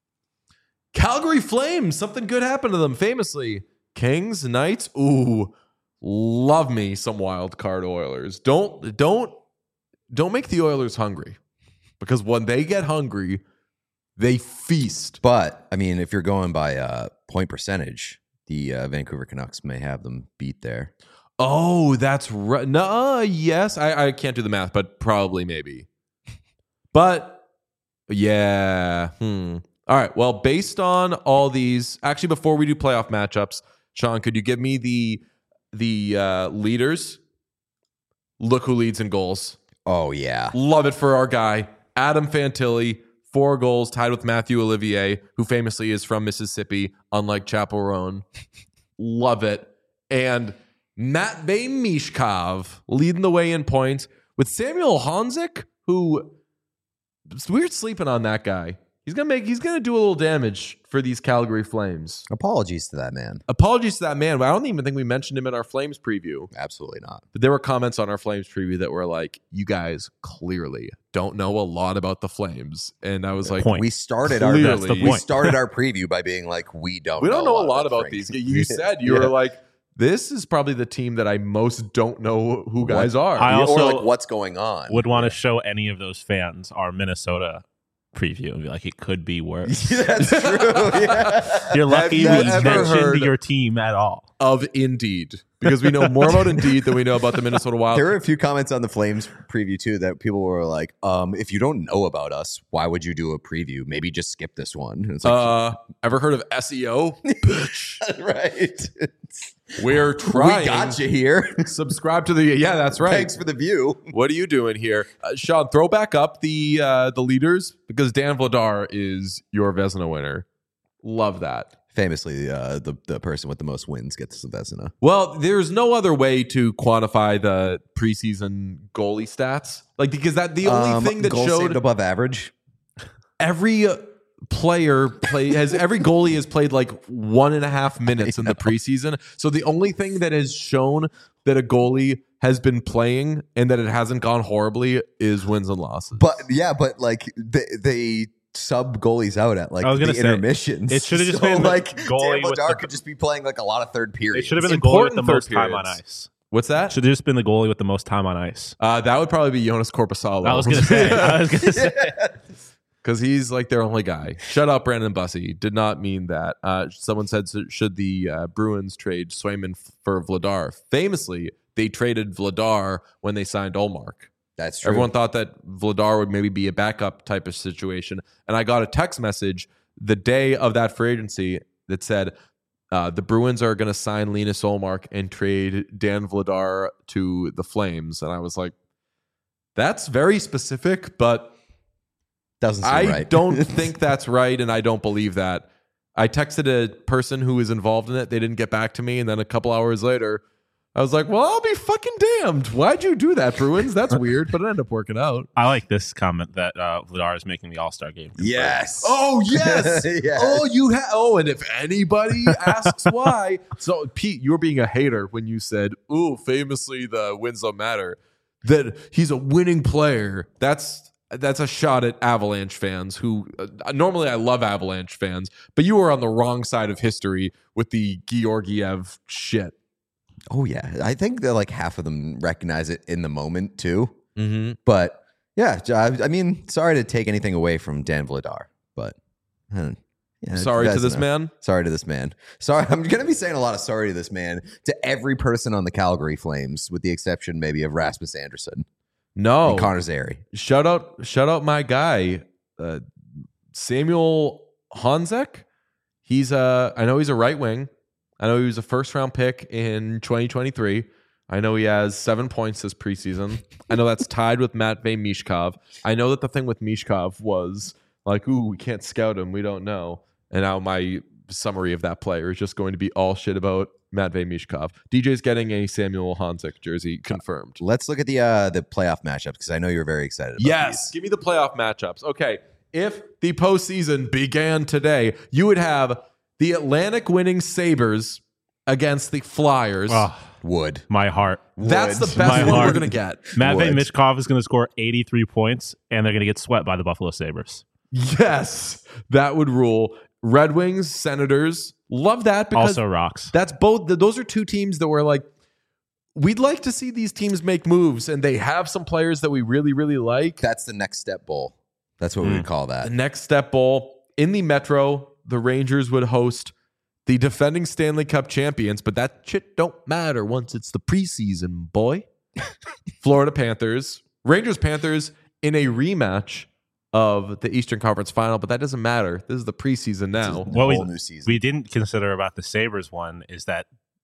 Calgary Flames. Something good happened to them. Famously, Kings, Knights. Ooh, love me some wild card Oilers. Don't don't don't make the Oilers hungry, because when they get hungry, they feast. But I mean, if you're going by uh, point percentage, the uh, Vancouver Canucks may have them beat there. Oh, that's right. No, yes, I, I can't do the math, but probably maybe. But yeah, hmm. All right. Well, based on all these, actually, before we do playoff matchups, Sean, could you give me the the uh, leaders? Look who leads in goals. Oh yeah, Love it for our guy Adam Fantilli. Four goals, tied with Matthew Olivier, who famously is from Mississippi, unlike Chapel Roan. Love it. And Matvei Mishkov leading the way in points with Samuel Honzik, who it's weird sleeping on that guy. He's gonna make he's gonna do a little damage for these Calgary Flames. apologies to that man. Apologies to that man, but I don't even think we mentioned him in our Flames preview. Absolutely not. But there were comments on our Flames preview that were like, you guys clearly don't know a lot about the Flames. And I was like, point. We started Clearly. our That's the we point. started our preview by being like, we don't. we don't know a lot the about Franks. these. You said you Yeah. were like, this is probably the team that I most don't know who guys are. I or also like what's going on. would want to show any of those fans our Minnesota preview and be like, it could be worse. That's true. Yeah. You're lucky Have we you ever mentioned heard- your team at all. Of Indeed, because we know more about Indeed than we know about the Minnesota Wild. There were a few comments on the Flames preview too that people were like, um, if you don't know about us, why would you do a preview? Maybe just skip this one. And it's like, Uh, ever heard of S E O? Bitch. right. We're trying. We got you here. Subscribe to the. Yeah, that's right. Thanks for the view. What are you doing here, uh, Sean? Throw back up the uh, the leaders, because Dan Vladar is your Vezina winner. Love that. Famously, uh, the the person with the most wins gets the Vezina. Well, there's no other way to quantify the preseason goalie stats, like because that the only Um, thing that goals showed saved above average. every player play has every goalie has played like one and a half minutes in the preseason. So the only thing that has shown that a goalie has been playing and that it hasn't gone horribly is wins and losses. But yeah, but like they, they sub goalies out at like I was the gonna say, intermissions. it should've just So, been the like goalie Dan with Vladar the- could just be playing like a lot of third It periods. should have been the goalie with Important the third most time on periods. ice. What's that? Should have just been the goalie with the most time on ice. Uh, that would probably be Jonas Corposalo. I was gonna say. I was gonna say. Because he's like their only guy. Shut up, Brandon Bussey. Did not mean that. Uh, someone said, should the uh, Bruins trade Swayman f- for Vladar? Famously, they traded Vladar when they signed Olmark. That's true. Everyone thought that Vladar would maybe be a backup type of situation. And I got a text message the day of that free agency that said, uh, the Bruins are going to sign Linus Olmark and trade Dan Vladar to the Flames. And I was like, that's very specific, but Doesn't seem I right. don't think that's right, and I don't believe that. I texted a person who was involved in it. They didn't get back to me, and then a couple hours later, I was like, well, I'll be fucking damned. Why'd you do that, Bruins? That's weird, but it ended up working out. I like this comment that uh, Vladar is making the All Star game. Yes. Oh, yes. Yes. Oh, you have. Oh, and if anybody asks why. So, Pete, you were being a hater when you said, ooh, famously, the wins don't matter. That he's a winning player. That's. That's a shot at Avalanche fans who uh, normally I love Avalanche fans, but you were on the wrong side of history with the Georgiev shit. Oh yeah, I think that like half of them recognize it in the moment too. Mm-hmm. But yeah, I, I mean, sorry to take anything away from Dan Vladar, but uh, yeah, Sorry to that's this enough. man. Sorry to this man. Sorry, I'm going to be saying a lot of sorry to this man to every person on the Calgary Flames, with the exception maybe of Rasmus Anderson No. and Connor Zary. Shout out, shout out my guy, uh, Samuel Honzek. He's a, I know he's a right wing. I know he was a first round pick in twenty twenty-three. I know he has seven points this preseason. I know that's tied with Matvei Mishkov. I know that the thing with Mishkov was like, ooh, we can't scout him. We don't know. And now my summary of that player is just going to be all shit about Matvei Mishkov. D J's getting a Samuel Honzek jersey confirmed. Let's look at the uh, the playoff matchups because I know you're very excited about Yes. these. Give me the playoff matchups. Okay. if the postseason began today, you would have the Atlantic winning Sabres against the Flyers. Oh, Would. my heart. That's Would. the best My one heart. we're going to get. Matvey Would. Michkov is going to score eighty-three points, and they're going to get swept by the Buffalo Sabres. Yes, that would rule. Red Wings, Senators. Love that because Also rocks. that's both. Those are two teams that were like, we'd like to see these teams make moves, and they have some players that we really, really like. That's the next step bowl. That's what we would call The that. next step bowl in the Metro, the Rangers would host the defending Stanley Cup champions, but that shit don't matter once it's the preseason, boy. Florida Panthers, Rangers Panthers in a rematch of the Eastern Conference Final, but that doesn't matter. This is the preseason now. The What we- whole new season. We didn't consider about the Sabres one is that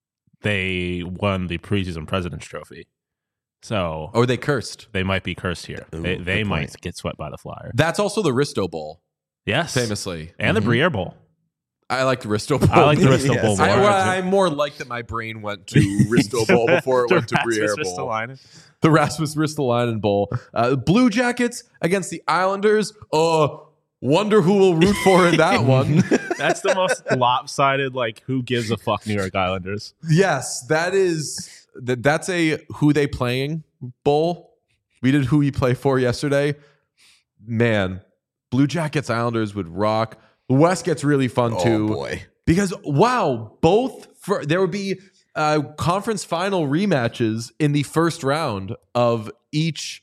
they won the preseason President's Trophy. So Or they cursed. they might be cursed here. Ooh, they they good might point. get swept by the Flyer. That's also the Risto Bowl, Yes. famously. And Mhm. the Briere Bowl. I like the Risto Bowl. I like the Bristol Yes. Bowl more. I, well, I more like that my brain went to Risto Bowl before it The went to Rasmus Briere Bowl. Ristolainen. The Rasmus Ristolainen Bowl. Uh, Blue Jackets against the Islanders. Uh, wonder who will root for in that one. That's the most lopsided, like, who gives a fuck New York Islanders. Yes, that is that. That's a who they playing bowl. We did who we play for yesterday. Man, Blue Jackets Islanders would rock. The West gets really fun oh, too boy. because wow, both for there would be uh, conference final rematches in the first round of each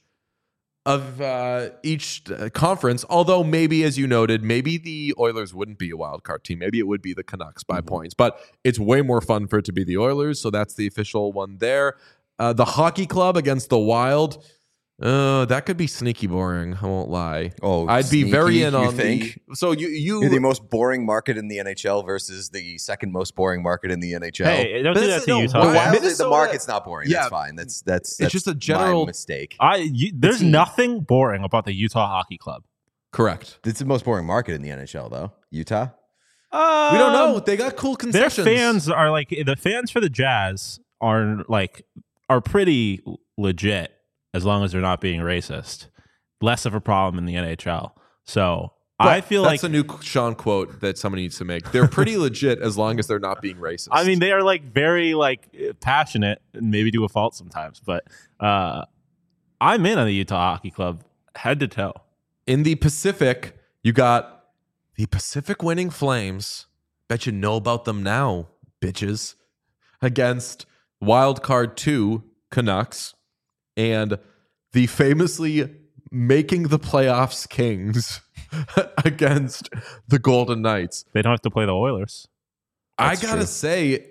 of uh, each uh, conference. Although maybe, as you noted, maybe the Oilers wouldn't be a wild card team. Maybe it would be the Canucks by Mhm. points. But it's way more fun for it to be the Oilers. So that's the official one there. Uh, the Hockey Club against the Wild. Uh, that could be sneaky boring. I won't lie. Oh, I'd be very sneaky, in you on think? the. So you you You're the most boring market in the N H L versus the second most boring market in the N H L. Hey, don't do that Minnesota- to no, Utah. the why- Wild, the Minnesota- market's not boring. Yeah. That's fine. That's that's, that's just a my general- mistake. I, you, there's team. nothing boring about the Utah Hockey Club. correct. It's the most boring market in the N H L, though. Utah. Um, We don't know. They got cool Their concessions. fans are like the fans for the Jazz are like are pretty legit as long as they're not being racist. Less of a problem in the N H L. So I feel that's like a new Sean quote that somebody needs to make. They're pretty legit as long as they're not being racist. I mean they are like very like passionate and maybe to a fault sometimes, but uh, I'm in on the Utah Hockey Club head to toe. in the Pacific, you got the Pacific winning Flames. Bet you know about them now, bitches. Against Wild Card two Canucks and the famously making the playoffs Kings against the Golden Knights. They don't have to play the Oilers. That's I gotta true. say,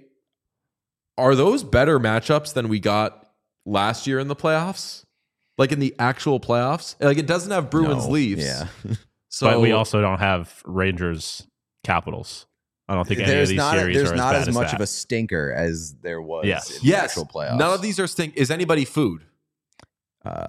are those better matchups than we got last year in the playoffs? Like in the actual playoffs? Like it doesn't have Bruins No. Leafs. Yeah. So but we also don't have Rangers Capitals. I don't think any of There's these not series there's are not as, as bad much as of that. a stinker as there was Yes. in the yes, actual playoffs. none of these are stink. Is anybody food? Uh,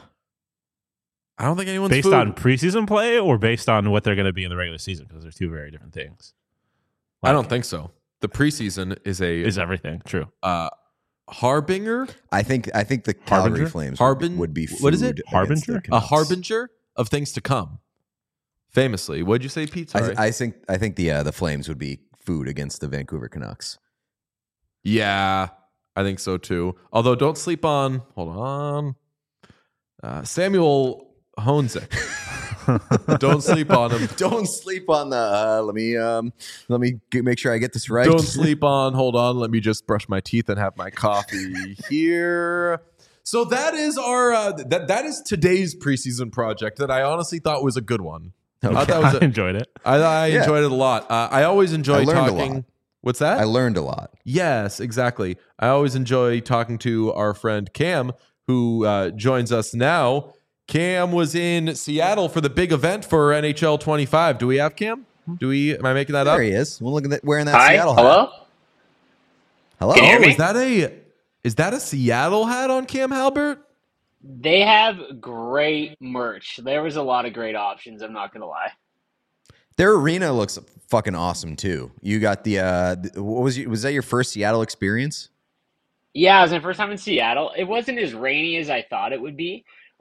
I don't think anyone's based food. on preseason play or based on what they're going to be in the regular season because they're two very different things. I don't think so. The preseason is a Is everything true? uh, harbinger, I think I think the Calgary Harbinger? Flames Harbin- would be food what is it? against Harbinger? the a Canucks. harbinger of things to come. Famously, what'd you say, Pete? Sorry. I, I think I think the uh, the Flames would be food against the Vancouver Canucks. Yeah, I think so too. Although, don't sleep on. Hold on, uh, Samuel Honzik. Don't sleep on him. Don't sleep on the. Uh, let me um, let me get, make sure I get this right. Don't sleep on. Hold on. Let me just brush my teeth and have my coffee here. So that is our uh, that that is today's preseason project that I honestly thought was a good one. I thought that was I a, enjoyed it. I, I Yeah. enjoyed it a lot. Uh, I always enjoy I learned a talking. lot. What's that? I learned a lot. Yes, exactly. I always enjoy talking to our friend Cam, who uh, joins us now. Cam was in Seattle for the big event for N H L twenty-five. Do we have Cam? Do we? Am I making that There up? he is. Well, look at that wearing that Hi, Seattle hat. hello. Hello. Can you hear Oh, me? is that a is that a Seattle hat on Cam Halbert? They have great merch. There was a lot of great options. I'm not gonna lie. Their arena looks fucking awesome too. You got the uh, th- what was you, was that your first Seattle experience? Yeah, it was my first time in Seattle. It wasn't as rainy as I thought it would be.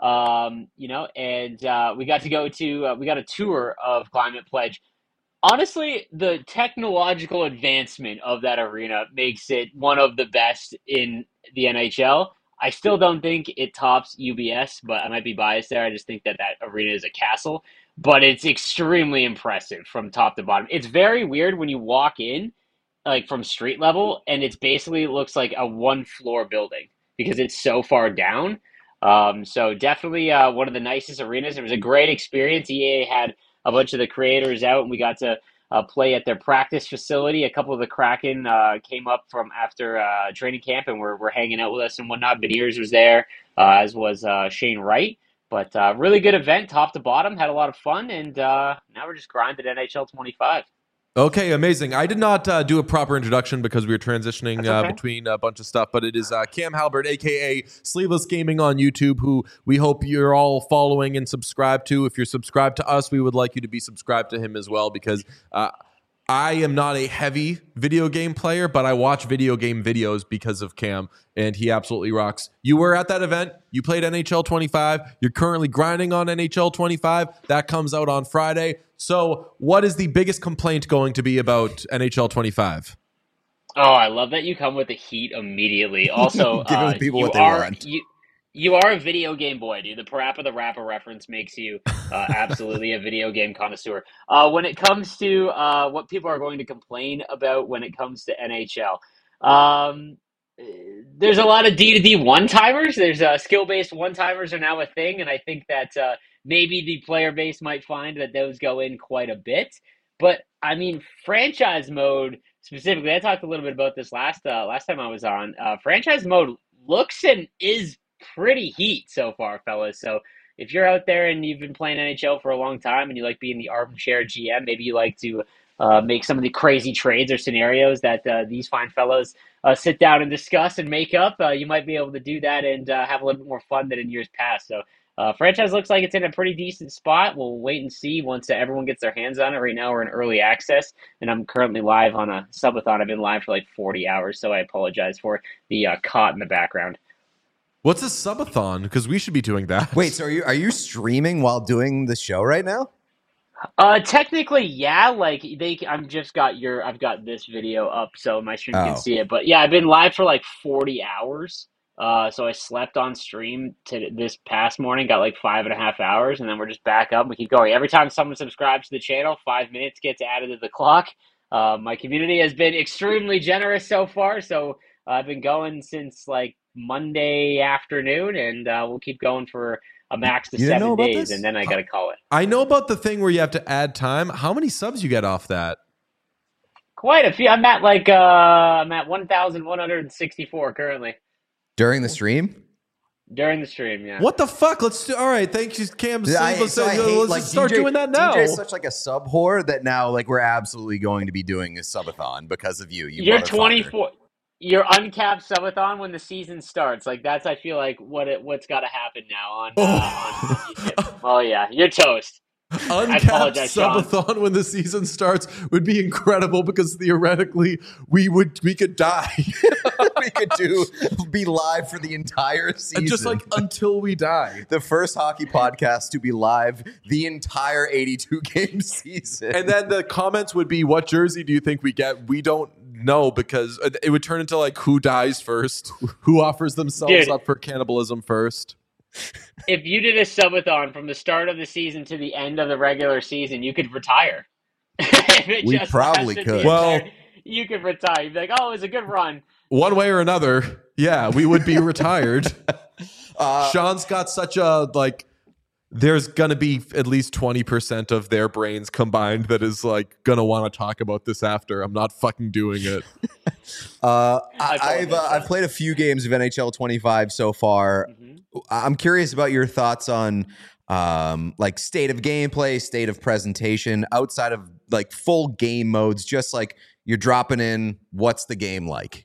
Um, you know, and uh, we got to go to uh, we got a tour of Climate Pledge. Honestly, the technological advancement of that arena makes it one of the best in the N H L. I still don't think it tops U B S, but I might be biased there. I just think that that arena is a castle, but it's extremely impressive from top to bottom. It's very weird when you walk in, like from street level, and it's basically looks like a one floor building because it's so far down. Um, so definitely uh, one of the nicest arenas. It was a great experience. E A had a bunch of the creators out, and we got to uh, play at their practice facility. A couple of the Kraken uh, came up from after uh, training camp and were, were hanging out with us and whatnot. Beniers was there, uh, as was uh, Shane Wright. But uh, really good event, top to bottom. Had a lot of fun, and uh, now we're just grinding N H L twenty-five. Okay, amazing. I did not uh, do a proper introduction because we were transitioning That's uh, okay. between a bunch of stuff, but it is uh, Cam Halbert, a k a. Sleeveless Gaming on YouTube, who we hope you're all following and subscribed to. If you're subscribed to us, we would like you to be subscribed to him as well, because uh, I am not a heavy video game player, but I watch video game videos because of Cam, and he absolutely rocks. You were at that event. You played N H L twenty-five. You're currently grinding on N H L twenty-five. That comes out on Friday. So what is the biggest complaint going to be about N H L twenty-five? Oh, I love that you come with the heat immediately. Also, Giving uh, people you what they are want. you you are a video game boy, dude. The Parappa the Rapper reference makes you uh, absolutely a video game connoisseur. Uh, when it comes to uh, what people are going to complain about when it comes to N H L, um, there's a lot of D to D one-timers. There's uh, skill-based one-timers are now a thing, and I think that uh, maybe the player base might find that those go in quite a bit. But, I mean, franchise mode specifically, I talked a little bit about this last uh, last time I was on. Uh, franchise mode looks and is pretty heat so far, fellas. So if you're out there and you've been playing N H L for a long time and you like being the armchair G M, maybe you like to uh, make some of the crazy trades or scenarios that uh, these fine fellows uh, sit down and discuss and make up, uh, you might be able to do that and uh, have a little bit more fun than in years past. So uh, franchise looks like it's in a pretty decent spot. We'll wait and see once uh, everyone gets their hands on it. Right now we're in early access, and I'm currently live on a subathon. I've been live for like forty hours, so I apologize for the uh, cot in the background. What's a subathon? Because we should be doing that. Wait, so are you are you streaming while doing the show right now? Uh, technically, yeah. Like they, I'm just got your, I've got this video up, so my stream Oh. can see it. But yeah, I've been live for like forty hours. Uh, so I slept on stream to this past morning, got like five and a half hours, and then we're just back up. We keep going. Every time someone subscribes to the channel, five minutes gets added to the clock. Uh, my community has been extremely generous so far, so uh, I've been going since like Monday afternoon, and uh, we'll keep going for a max to You didn't know seven about days, this? and then I gotta call it. I know about the thing where you have to add time. How many subs you get off that? Quite a few. I'm at like uh, I'm at one thousand one hundred sixty-four currently During the stream? during the stream. Yeah. What the fuck? Let's do. All right, thank you, Cam. I, Let's, so I let's hate, just like, start D J, doing that now. D J is such like a sub whore that now like we're absolutely going to be doing a subathon because of you. You You're motherfucker. twenty-four. You're uncapped subathon when the season starts. Like that's I feel like what it, what's got to happen now on. Uh, on YouTube. Oh yeah, you're toast. Uncapped apologize, Sean. subathon when the season starts would be incredible because theoretically we would we could die. We could do be live for the entire season. Just like until we die. the first hockey podcast to be live the entire eighty-two game season. And then the comments would be, what jersey do you think we get? We don't know, because it would turn into like who dies first, who offers themselves Dude. up for cannibalism first. If you did a subathon from the start of the season to the end of the regular season, you could retire. If it We just probably lasted the could. Well- entire- you could retire. You'd be like, oh, it was a good run. One way or another, yeah, we would be retired. uh, Sean's got such a like. There's gonna be at least twenty percent of their brains combined that is like gonna want to talk about this after. I'm not fucking doing it. uh, I I, I've uh, apologize. I've played a few games of N H L twenty-five so far. Mhm. I'm curious about your thoughts on um, like state of gameplay, state of presentation, outside of like full game modes. Just like you're dropping in, what's the game like?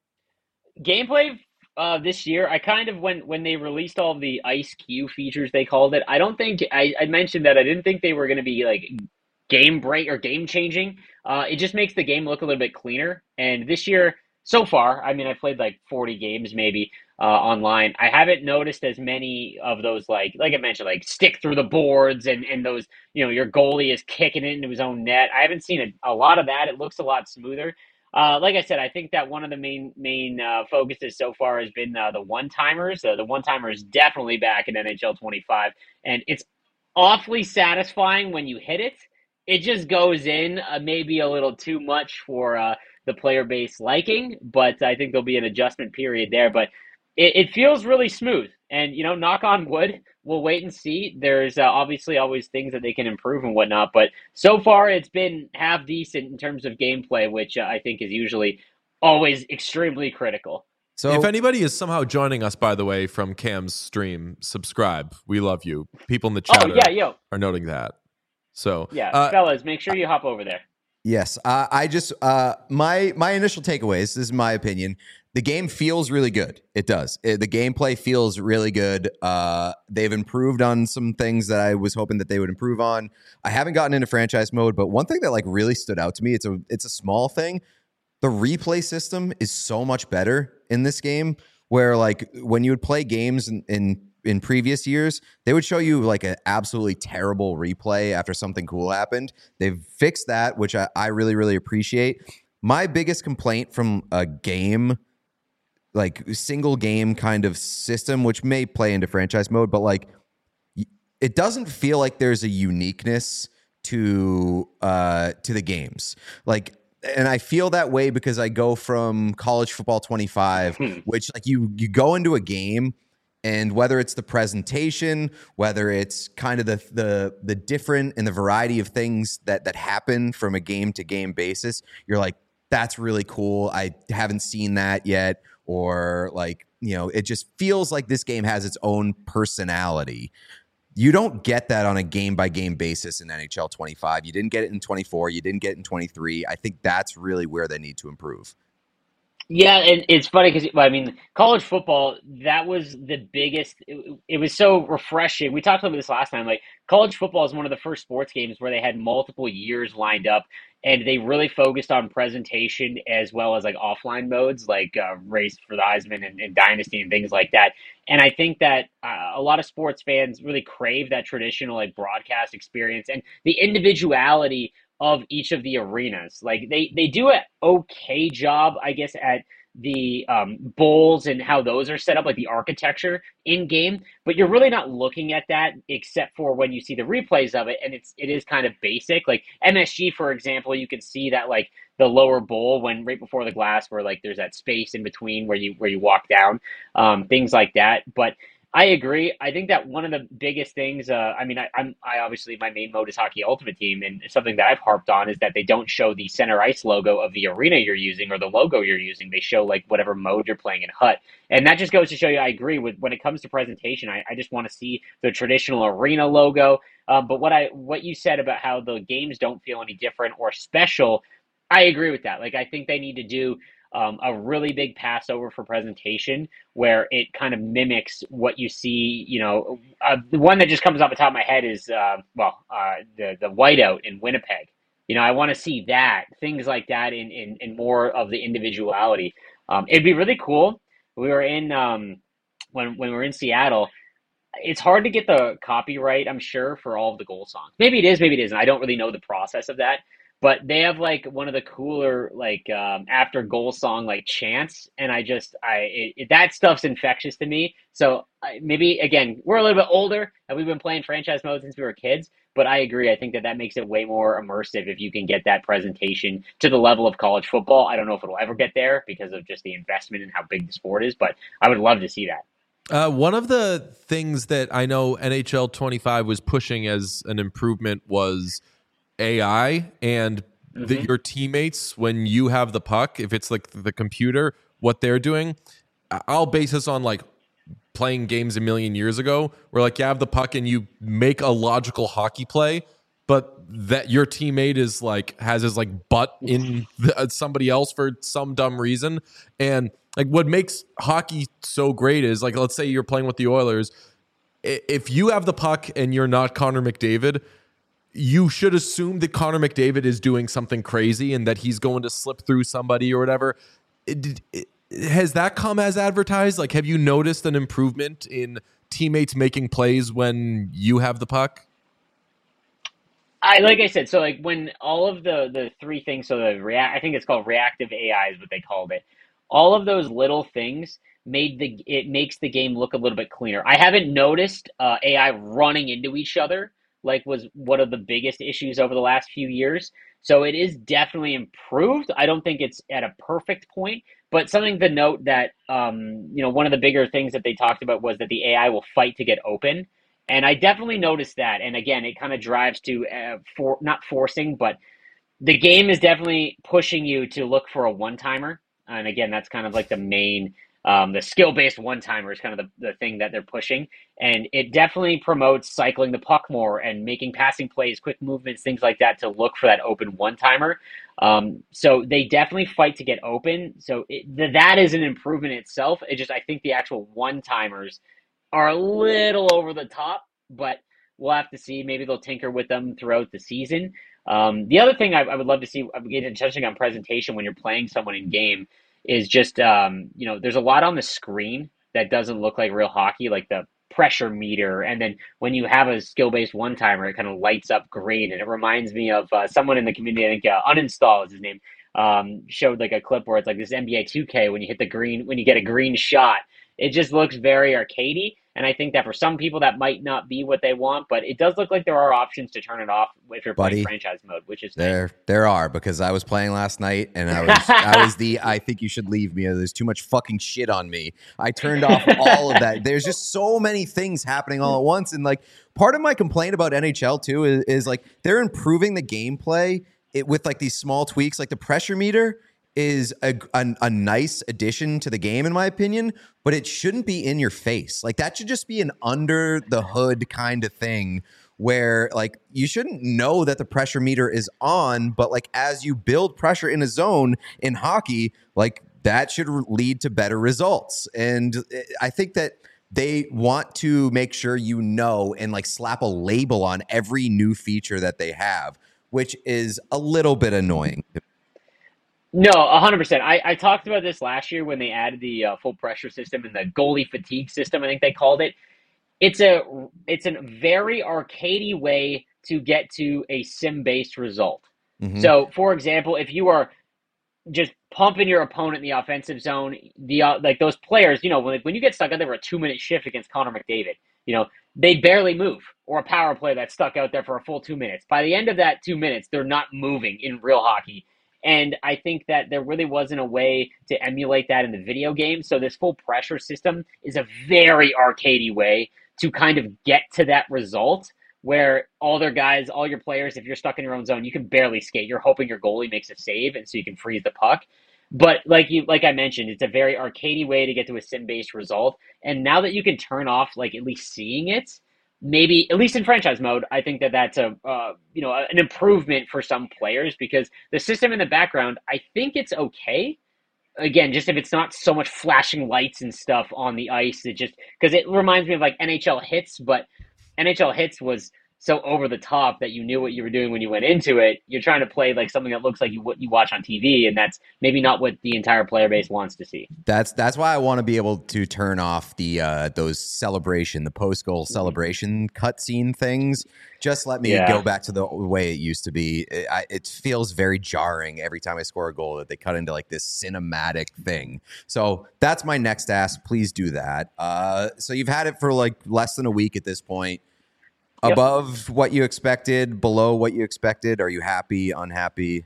Gameplay uh, this year, I kind of when when they released all the Ice Q features, they called it. I don't think I, I mentioned that I didn't think they were going to be like game break or game changing. Uh, it just makes the game look a little bit cleaner. And this year, so far, I mean, I played like forty games maybe. uh, online. I haven't noticed as many of those, like like I mentioned, like stick through the boards and and those, you know, your goalie is kicking it into his own net. I haven't seen a, a lot of that. It looks a lot smoother. Uh, like I said, I think that one of the main main uh, focuses so far has been uh, the one timers. Uh, the one timer is definitely back in N H L twenty-five, and it's awfully satisfying when you hit it. It just goes in, uh, maybe a little too much for uh, the player base liking, but I think there'll be an adjustment period there. But it, it feels really smooth, and you know, knock on wood. We'll wait and see. There's uh, obviously always things that they can improve and whatnot, but so far it's been half decent in terms of gameplay, which uh, I think is usually always extremely critical. So if anybody is somehow joining us, by the way, from Cam's stream, subscribe. We love you. People in the chat Oh yeah, are, yo, are noting that. So yeah, uh, fellas, make sure you hop over there. yes, uh, I just uh, my my initial takeaways. This is my opinion. The game feels really good. It does. It, the gameplay feels really good. Uh, they've improved on some things that I was hoping that they would improve on. I haven't gotten into franchise mode, but one thing that like really stood out to me, it's a it's a small thing. The replay system is so much better in this game, where like when you would play games in, in in previous years, they would show you like an absolutely terrible replay after something cool happened. They've fixed that, which I, I really, really appreciate. My biggest complaint from a game, like single game kind of system, which may play into franchise mode, but like it doesn't feel like there's a uniqueness to uh, to the games. Like, and I feel that way because I go from College Football twenty-five, Hmm. which like you you go into a game, and whether it's the presentation, whether it's kind of the the the different and the variety of things that that happen from a game to game basis, you're like, that's really cool. I haven't seen that yet. Or like, you know, it just feels like this game has its own personality. You don't get that on a game by game basis in N H L twenty-five. You didn't get it in twenty-four. You didn't get it in twenty-three. I think that's really where they need to improve. Yeah, and it's funny because I mean, college football, that was the biggest. It, it was so refreshing. We talked about this last time. Like, college football is one of the first sports games where they had multiple years lined up, and they really focused on presentation as well as like offline modes, like uh, race for the Heisman and, and Dynasty and things like that. And I think that uh, a lot of sports fans really crave that traditional like broadcast experience and the individuality of each of the arenas. Like they they do an okay job, I guess, at the um, bowls and how those are set up, like the architecture in game. But you're really not looking at that except for when you see the replays of it, and it's it is kind of basic. Like M S G, for example, you can see that like the lower bowl when right before the glass, where like there's that space in between where you where you walk down, um, things like that. But I agree. I think that one of the biggest things, uh, I mean, I, I'm, I obviously, my main mode is Hockey Ultimate Team, and something that I've harped on is that they don't show the center ice logo of the arena you're using or the logo you're using. They show like whatever mode you're playing in H U T. And that just goes to show you, I agree with when it comes to presentation, I, I just want to see the traditional arena logo. Um, but what I, what you said about how the games don't feel any different or special, I agree with that. Like, I think they need to do Um, a really big Passover for presentation where it kind of mimics what you see. You know, uh, the one that just comes off the top of my head is, uh, well, uh, the the whiteout in Winnipeg. You know, I want to see that, things like that in, in, in more of the individuality. Um, it'd be really cool. We were in, um, when, when we were in Seattle, it's hard to get the copyright, I'm sure, for all of the goal songs. Maybe it is, maybe it isn't. I don't really know the process of that. But they have like one of the cooler like um, after goal song like chants, and I just I it, it, that stuff's infectious to me. So I, maybe again we're a little bit older and we've been playing franchise mode since we were kids, but I agree. I think that that makes it way more immersive if you can get that presentation to the level of college football. I don't know if it'll ever get there because of just the investment and how big the sport is, but I would love to see that. Uh, one of the things that I know N H L twenty-five was pushing as an improvement was A I and mm-hmm. the, your teammates when you have the puck, if it's like the computer, what they're doing. I'll base this on like playing games a million years ago where like you have the puck and you make a logical hockey play, but that your teammate is like has his like butt in the, somebody else for some dumb reason. And like what makes hockey so great is like, let's say you're playing with the Oilers. If you have the puck and you're not Connor McDavid, you should assume that Connor McDavid is doing something crazy and that he's going to slip through somebody or whatever. It, it, has that come as advertised? Like, have you noticed an improvement in teammates making plays when you have the puck? I like I said, so like when all of the the three things, so the react, I think it's called reactive A I is what they called it. All of those little things made the it makes the game look a little bit cleaner. I haven't noticed uh, A I running into each other like was one of the biggest issues over the last few years. So it is definitely improved. I don't think it's at a perfect point, but something to note that um, you know one of the bigger things that they talked about was that the A I will fight to get open. And I definitely noticed that. And again, it kind of drives to uh, for not forcing, but the game is definitely pushing you to look for a one timer. And again, that's kind of like the main, um, the skill based one timer is kind of the, the thing that they're pushing. And it definitely promotes cycling the puck more and making passing plays, quick movements, things like that to look for that open one timer. Um, so they definitely fight to get open. So it, th- that is an improvement itself. It just, I think the actual one timers are a little over the top, but we'll have to see. Maybe they'll tinker with them throughout the season. Um, the other thing I, I would love to see, again, touching on presentation when you're playing someone in game, is just, um, you know, there's a lot on the screen that doesn't look like real hockey, like the pressure meter. And then when you have a skill-based one-timer, it kind of lights up green. And it reminds me of uh, someone in the community, I think uh, Uninstall is his name, um, showed like a clip where it's like this N B A two K when you hit the green, when you get a green shot. It just looks very arcadey, and I think that for some people that might not be what they want, but it does look like there are options to turn it off if you're Buddy, playing franchise mode, which is there. nice. There are, because I was playing last night and I was I was the I think you should leave me. There's too much fucking shit on me. I turned off all of that. There's just so many things happening all at once, and like part of my complaint about N H L too is, is like they're improving the gameplay it, with like these small tweaks, like the pressure meter is a, a, a nice addition to the game, in my opinion, but it shouldn't be in your face. Like that should just be an under the hood kind of thing where like you shouldn't know that the pressure meter is on, but like as you build pressure in a zone in hockey, like that should lead to better results. And I think that they want to make sure you know and like slap a label on every new feature that they have, which is a little bit annoying. No, one hundred percent. I, I talked about this last year when they added the uh, full pressure system and the goalie fatigue system, I think they called it. It's a it's a very arcadey way to get to a sim-based result. Mm-hmm. So, for example, if you are just pumping your opponent in the offensive zone, the uh, like those players, you know, when, when you get stuck out there for a two-minute shift against Connor McDavid, you know, they barely move, or a power play that's stuck out there for a full two minutes. By the end of that two minutes, they're not moving in real hockey. And I think that there really wasn't a way to emulate that in the video game. So this full pressure system is a very arcadey way to kind of get to that result where all their guys, all your players, if you're stuck in your own zone, you can barely skate. You're hoping your goalie makes a save, and so you can freeze the puck. But like you, like I mentioned, it's a very arcadey way to get to a sim-based result. And now that you can turn off, like at least seeing it, maybe at least in franchise mode, I think that that's a uh, you know an improvement for some players because the system in the background, I think it's okay. Again, just if it's not so much flashing lights and stuff on the ice, it just because it reminds me of like N H L Hits, but N H L Hits was so over the top that you knew what you were doing when you went into it. You're trying to play like something that looks like you what you watch on T V, and that's maybe not what the entire player base wants to see. That's that's why I want to be able to turn off the uh, those celebration, the post goal mm-hmm. celebration cutscene things. Just let me yeah. go back to the way it used to be. It, I, it feels very jarring every time I score a goal that they cut into like this cinematic thing. So that's my next ask. Please do that. Uh, so you've had it for like less than a week at this point. Yep. Above what you expected, below what you expected? Are you happy, unhappy?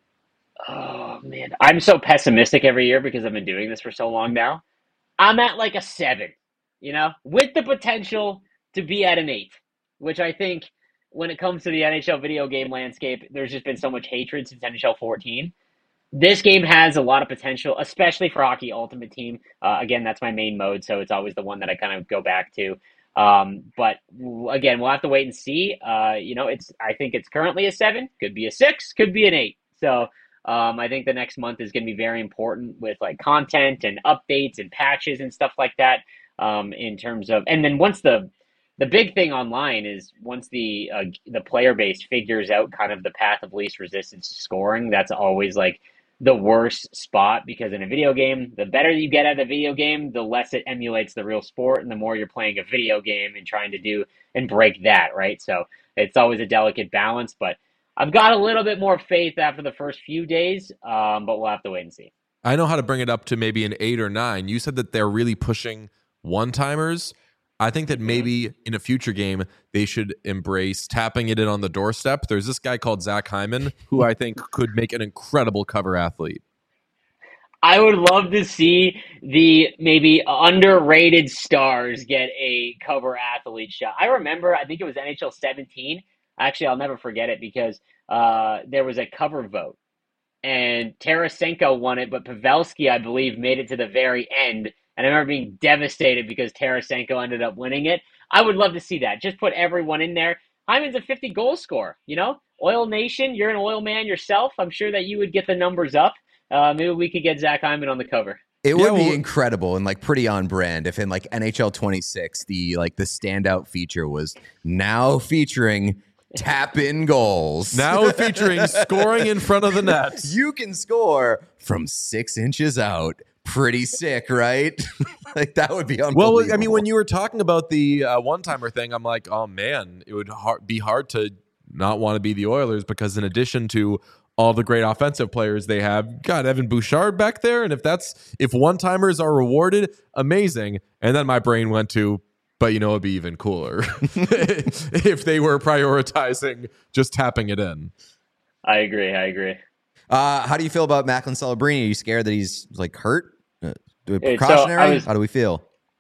Oh, man. I'm so pessimistic every year because I've been doing this for so long now. I'm at like a seven, you know, with the potential to be at an eight, which I think when it comes to the N H L video game landscape, there's just been so much hatred since N H L fourteen. This game has a lot of potential, especially for Hockey Ultimate Team. Uh, again, that's my main mode, so it's always the one that I kind of go back to. Um, but again, we'll have to wait and see. Uh, you know, it's, I think it's currently a seven, could be a six, could be an eight. So, um, I think the next month is going to be very important with like content and updates and patches and stuff like that. Um, in terms of, and then once the, the big thing online is once the, uh, the player base figures out kind of the path of least resistance to scoring, that's always like the worst spot, because in a video game, the better you get at the video game, the less it emulates the real sport, and the more you're playing a video game and trying to do and break that, right? So it's always a delicate balance, but I've got a little bit more faith after the first few days, um, but we'll have to wait and see. I know how to bring it up to maybe an eight or nine. You said that they're really pushing one-timers. I think that maybe in a future game, they should embrace tapping it in on the doorstep. There's this guy called Zach Hyman, who I think could make an incredible cover athlete. I would love to see the maybe underrated stars get a cover athlete shot. I remember, I think it was N H L seventeen. Actually, I'll never forget it because uh, there was a cover vote. And Tarasenko won it, but Pavelski, I believe, made it to the very end. And I remember being devastated because Tarasenko ended up winning it. I would love to see that. Just put everyone in there. Hyman's a fifty goal scorer, you know? Oil Nation, you're an oil man yourself. I'm sure that you would get the numbers up. Uh, maybe we could get Zach Hyman on the cover. It would Yeah, well- be incredible and like pretty on brand if in like N H L twenty-six, the like the standout feature was now featuring tap in goals. Now featuring scoring in front of the net. You can score from six inches out. Pretty sick, right? Like that would be unbelievable. Well, I mean, when you were talking about the uh, one-timer thing, I'm like, oh man, it would har- be hard to not want to be the Oilers because in addition to all the great offensive players they have, got Evan Bouchard back there, and if that's if one-timers are rewarded, amazing. And then my brain went to, but you know, it'd be even cooler if they were prioritizing just tapping it in. I agree. I agree. Uh, how do you feel about Macklin Celebrini? Are you scared that he's like hurt? Uh, so precautionary? I was- how do we feel?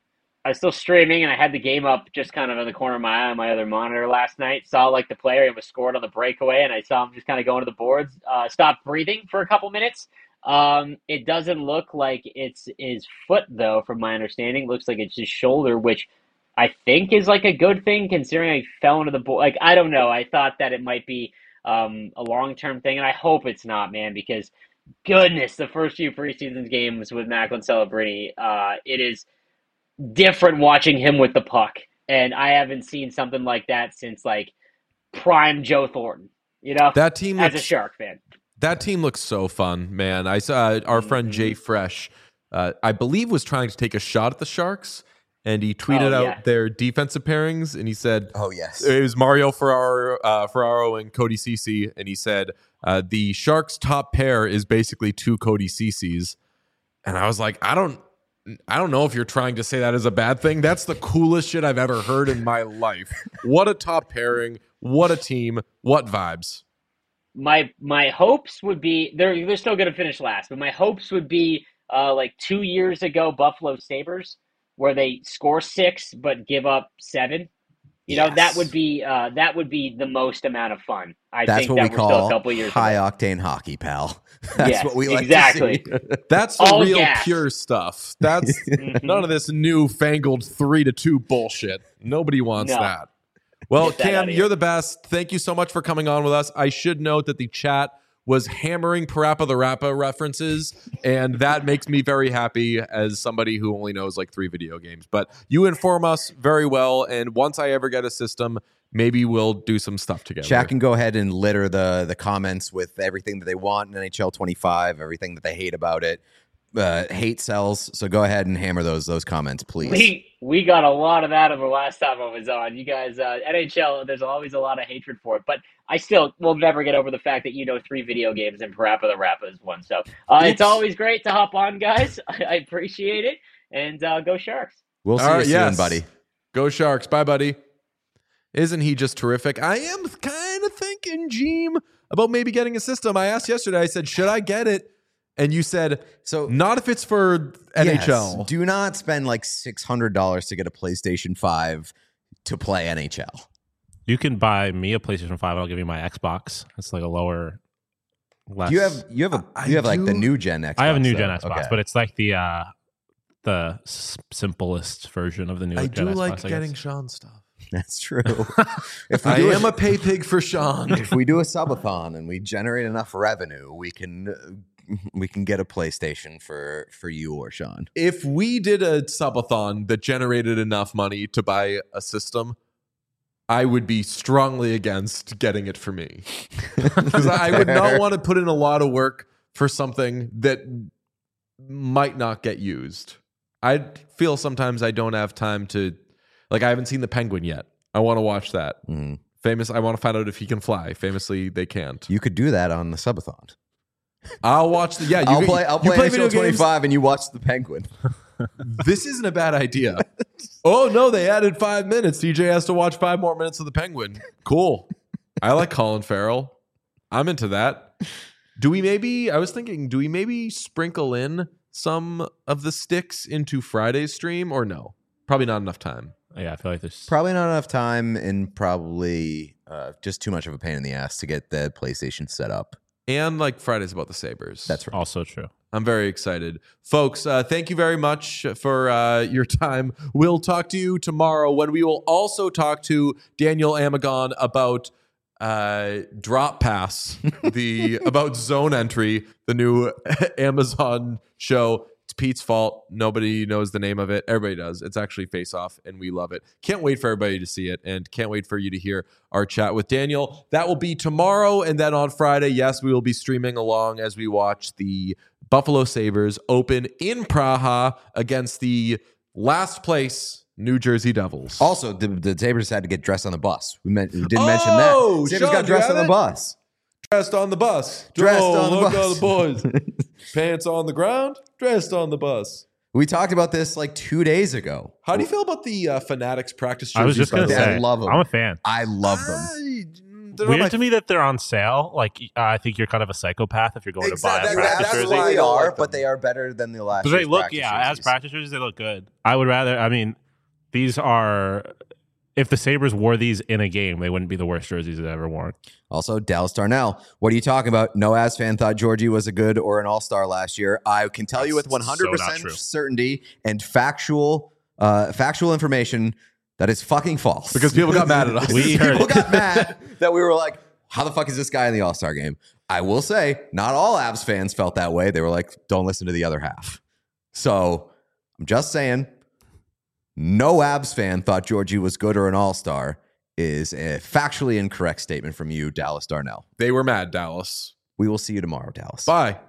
I was still streaming, and I had the game up just kind of in the corner of my eye on my other monitor last night. Saw like the player was scored on the breakaway, and I saw him just kind of going to the boards. Uh, stopped breathing for a couple minutes. Um, it doesn't look like it's his foot, though, from my understanding. Looks like it's his shoulder, which I think is like a good thing considering I fell into the board. Like, I don't know. I thought that it might be um, a long-term thing, and I hope it's not, man, because goodness, the first few preseason games with Macklin Celebrini, uh, it is different watching him with the puck. And I haven't seen something like that since like prime Joe Thornton, you know, That team as a looks, Shark fan. that team looks so fun, man. I saw our friend Jay Fresh, uh, I believe, was trying to take a shot at the Sharks, and he tweeted Oh, out yeah. their defensive pairings, and he said, Oh, yes. it was Mario Ferraro, uh, Ferraro and Cody Ceci, and he said uh, the Sharks' top pair is basically two Cody Cecis, and I was like, I don't, I don't know if you're trying to say that as a bad thing. That's the coolest shit I've ever heard in my life. What a top pairing! What a team! What vibes! My my hopes would be they're they're still going to finish last, but my hopes would be uh, like two years ago Buffalo Sabres, where they score six but give up seven. You know, that Yes. would be uh, that would be the most amount of fun. I That's think what that we we're still a call couple years high away. octane hockey, pal. That's Yes, what we like exactly. to see. That's the All real gas. pure stuff. That's Mhm. none of this newfangled three to two bullshit. Nobody wants No. that. Well, Get that Cam, outta here. you're the best. Thank you so much for coming on with us. I should note that the chat was hammering Parappa the Rappa references, and that makes me very happy as somebody who only knows like three video games. But you inform us very well, and once I ever get a system, maybe we'll do some stuff together. Chat can go ahead and litter the the comments with everything that they want in N H L twenty-five, everything that they hate about it. Uh, hate sells, so go ahead and hammer those those comments, please. We we got a lot of that over last time I was on. You guys, uh, N H L, there's always a lot of hatred for it, but I still will never get over the fact that you know three video games and Parappa the Rappa is one. So uh, it's Oops. always great to hop on, guys. I, I appreciate it, and uh, go Sharks. We'll see All you right, soon, yes. buddy. Go Sharks. Bye, buddy. Isn't he just terrific? I am kind of thinking, Jeem, about maybe getting a system. I asked yesterday, I said, should I get it? And you said, So not if it's for N H L. yes, do not spend like six hundred dollars to get a PlayStation five to play N H L. You can buy me a PlayStation five. I'll give you my Xbox. It's like a lower, less. You have you have a I you have like the do- new gen Xbox. I have a new though. gen Xbox, Okay. but it's like the uh, the s- simplest version of the new I gen do Xbox. like I guess. getting Sean stuff. That's true. if we I do am a, a pay pig for Sean. if we do a subathon and we generate enough revenue, we can uh, we can get a PlayStation for for you or Sean. If we did a subathon that generated enough money to buy a system, I would be strongly against getting it for me. Because I would not want to put in a lot of work for something that might not get used. I feel sometimes I don't have time to, like, I haven't seen The Penguin yet. I want to watch that. Mm. Famous, I want to find out if he can fly. Famously, they can't. You could do that on the subathon. I'll watch the, yeah. You I'll can- play, I'll you play, play N H L video games? twenty-five and you watch The Penguin. This isn't a bad idea. Oh, no, they added five minutes. D J has to watch five more minutes of The Penguin. Cool. I like Colin Farrell. I'm into that. Do we maybe, I was thinking, do we maybe sprinkle in some of the sticks into Friday's stream or no? Probably not enough time. Yeah, I feel like there's Probably not enough time and probably uh, just too much of a pain in the ass to get the PlayStation set up. And like Friday's about the Sabres. That's right. also true. I'm very excited. Folks, uh, thank you very much for uh, your time. We'll talk to you tomorrow when we will also talk to Daniel Amagon about uh, Drop Pass, the about Zone Entry, the new Amazon show. It's Pete's fault. Nobody knows the name of it. Everybody does. It's actually Face Off, and we love it. Can't wait for everybody to see it, and can't wait for you to hear our chat with Daniel. That will be tomorrow, and then on Friday, yes, we will be streaming along as we watch the Buffalo Sabres open in Praha against the last place New Jersey Devils. Also, the, the Sabres had to get dressed on the bus. We, meant, we didn't mention Oh, that. Sabres Sean, got do you dressed have on the it? bus. Dressed on the bus. Dressed oh, on the look bus. at the boys. Pants on the ground, dressed on the bus. We talked about this like two days ago. How do you feel about the uh, Fanatics practice jerseys? I was just by gonna the way? I say, love 'em. I'm a fan. I love them. I- they're Weird not to my- me that they're on sale. Like, uh, I think you're kind of a psychopath if you're going Exactly. to buy a That- practice that's jersey. why I they don't are, like but them. they are better than the last. But they year's look, practice yeah, as jerseys. practice jerseys, they look good. I would rather, I mean, these are, if the Sabres wore these in a game, they wouldn't be the worst jerseys they've ever worn. Also, Dallas Darnell. What are you talking about? No Avs fan thought Georgie was a good or an all-star last year. I can tell you with That's one hundred so not percent true. certainty and factual uh, factual information that is fucking false. Because people got mad at us. We heard People it. got mad that we were like, how the fuck is this guy in the all-star game? I will say, not all Avs fans felt that way. They were like, don't listen to the other half. So I'm just saying, no Avs fan thought Georgie was good or an all-star is a factually incorrect statement from you, Dallas Darnell. They were mad, Dallas. We will see you tomorrow, Dallas. Bye.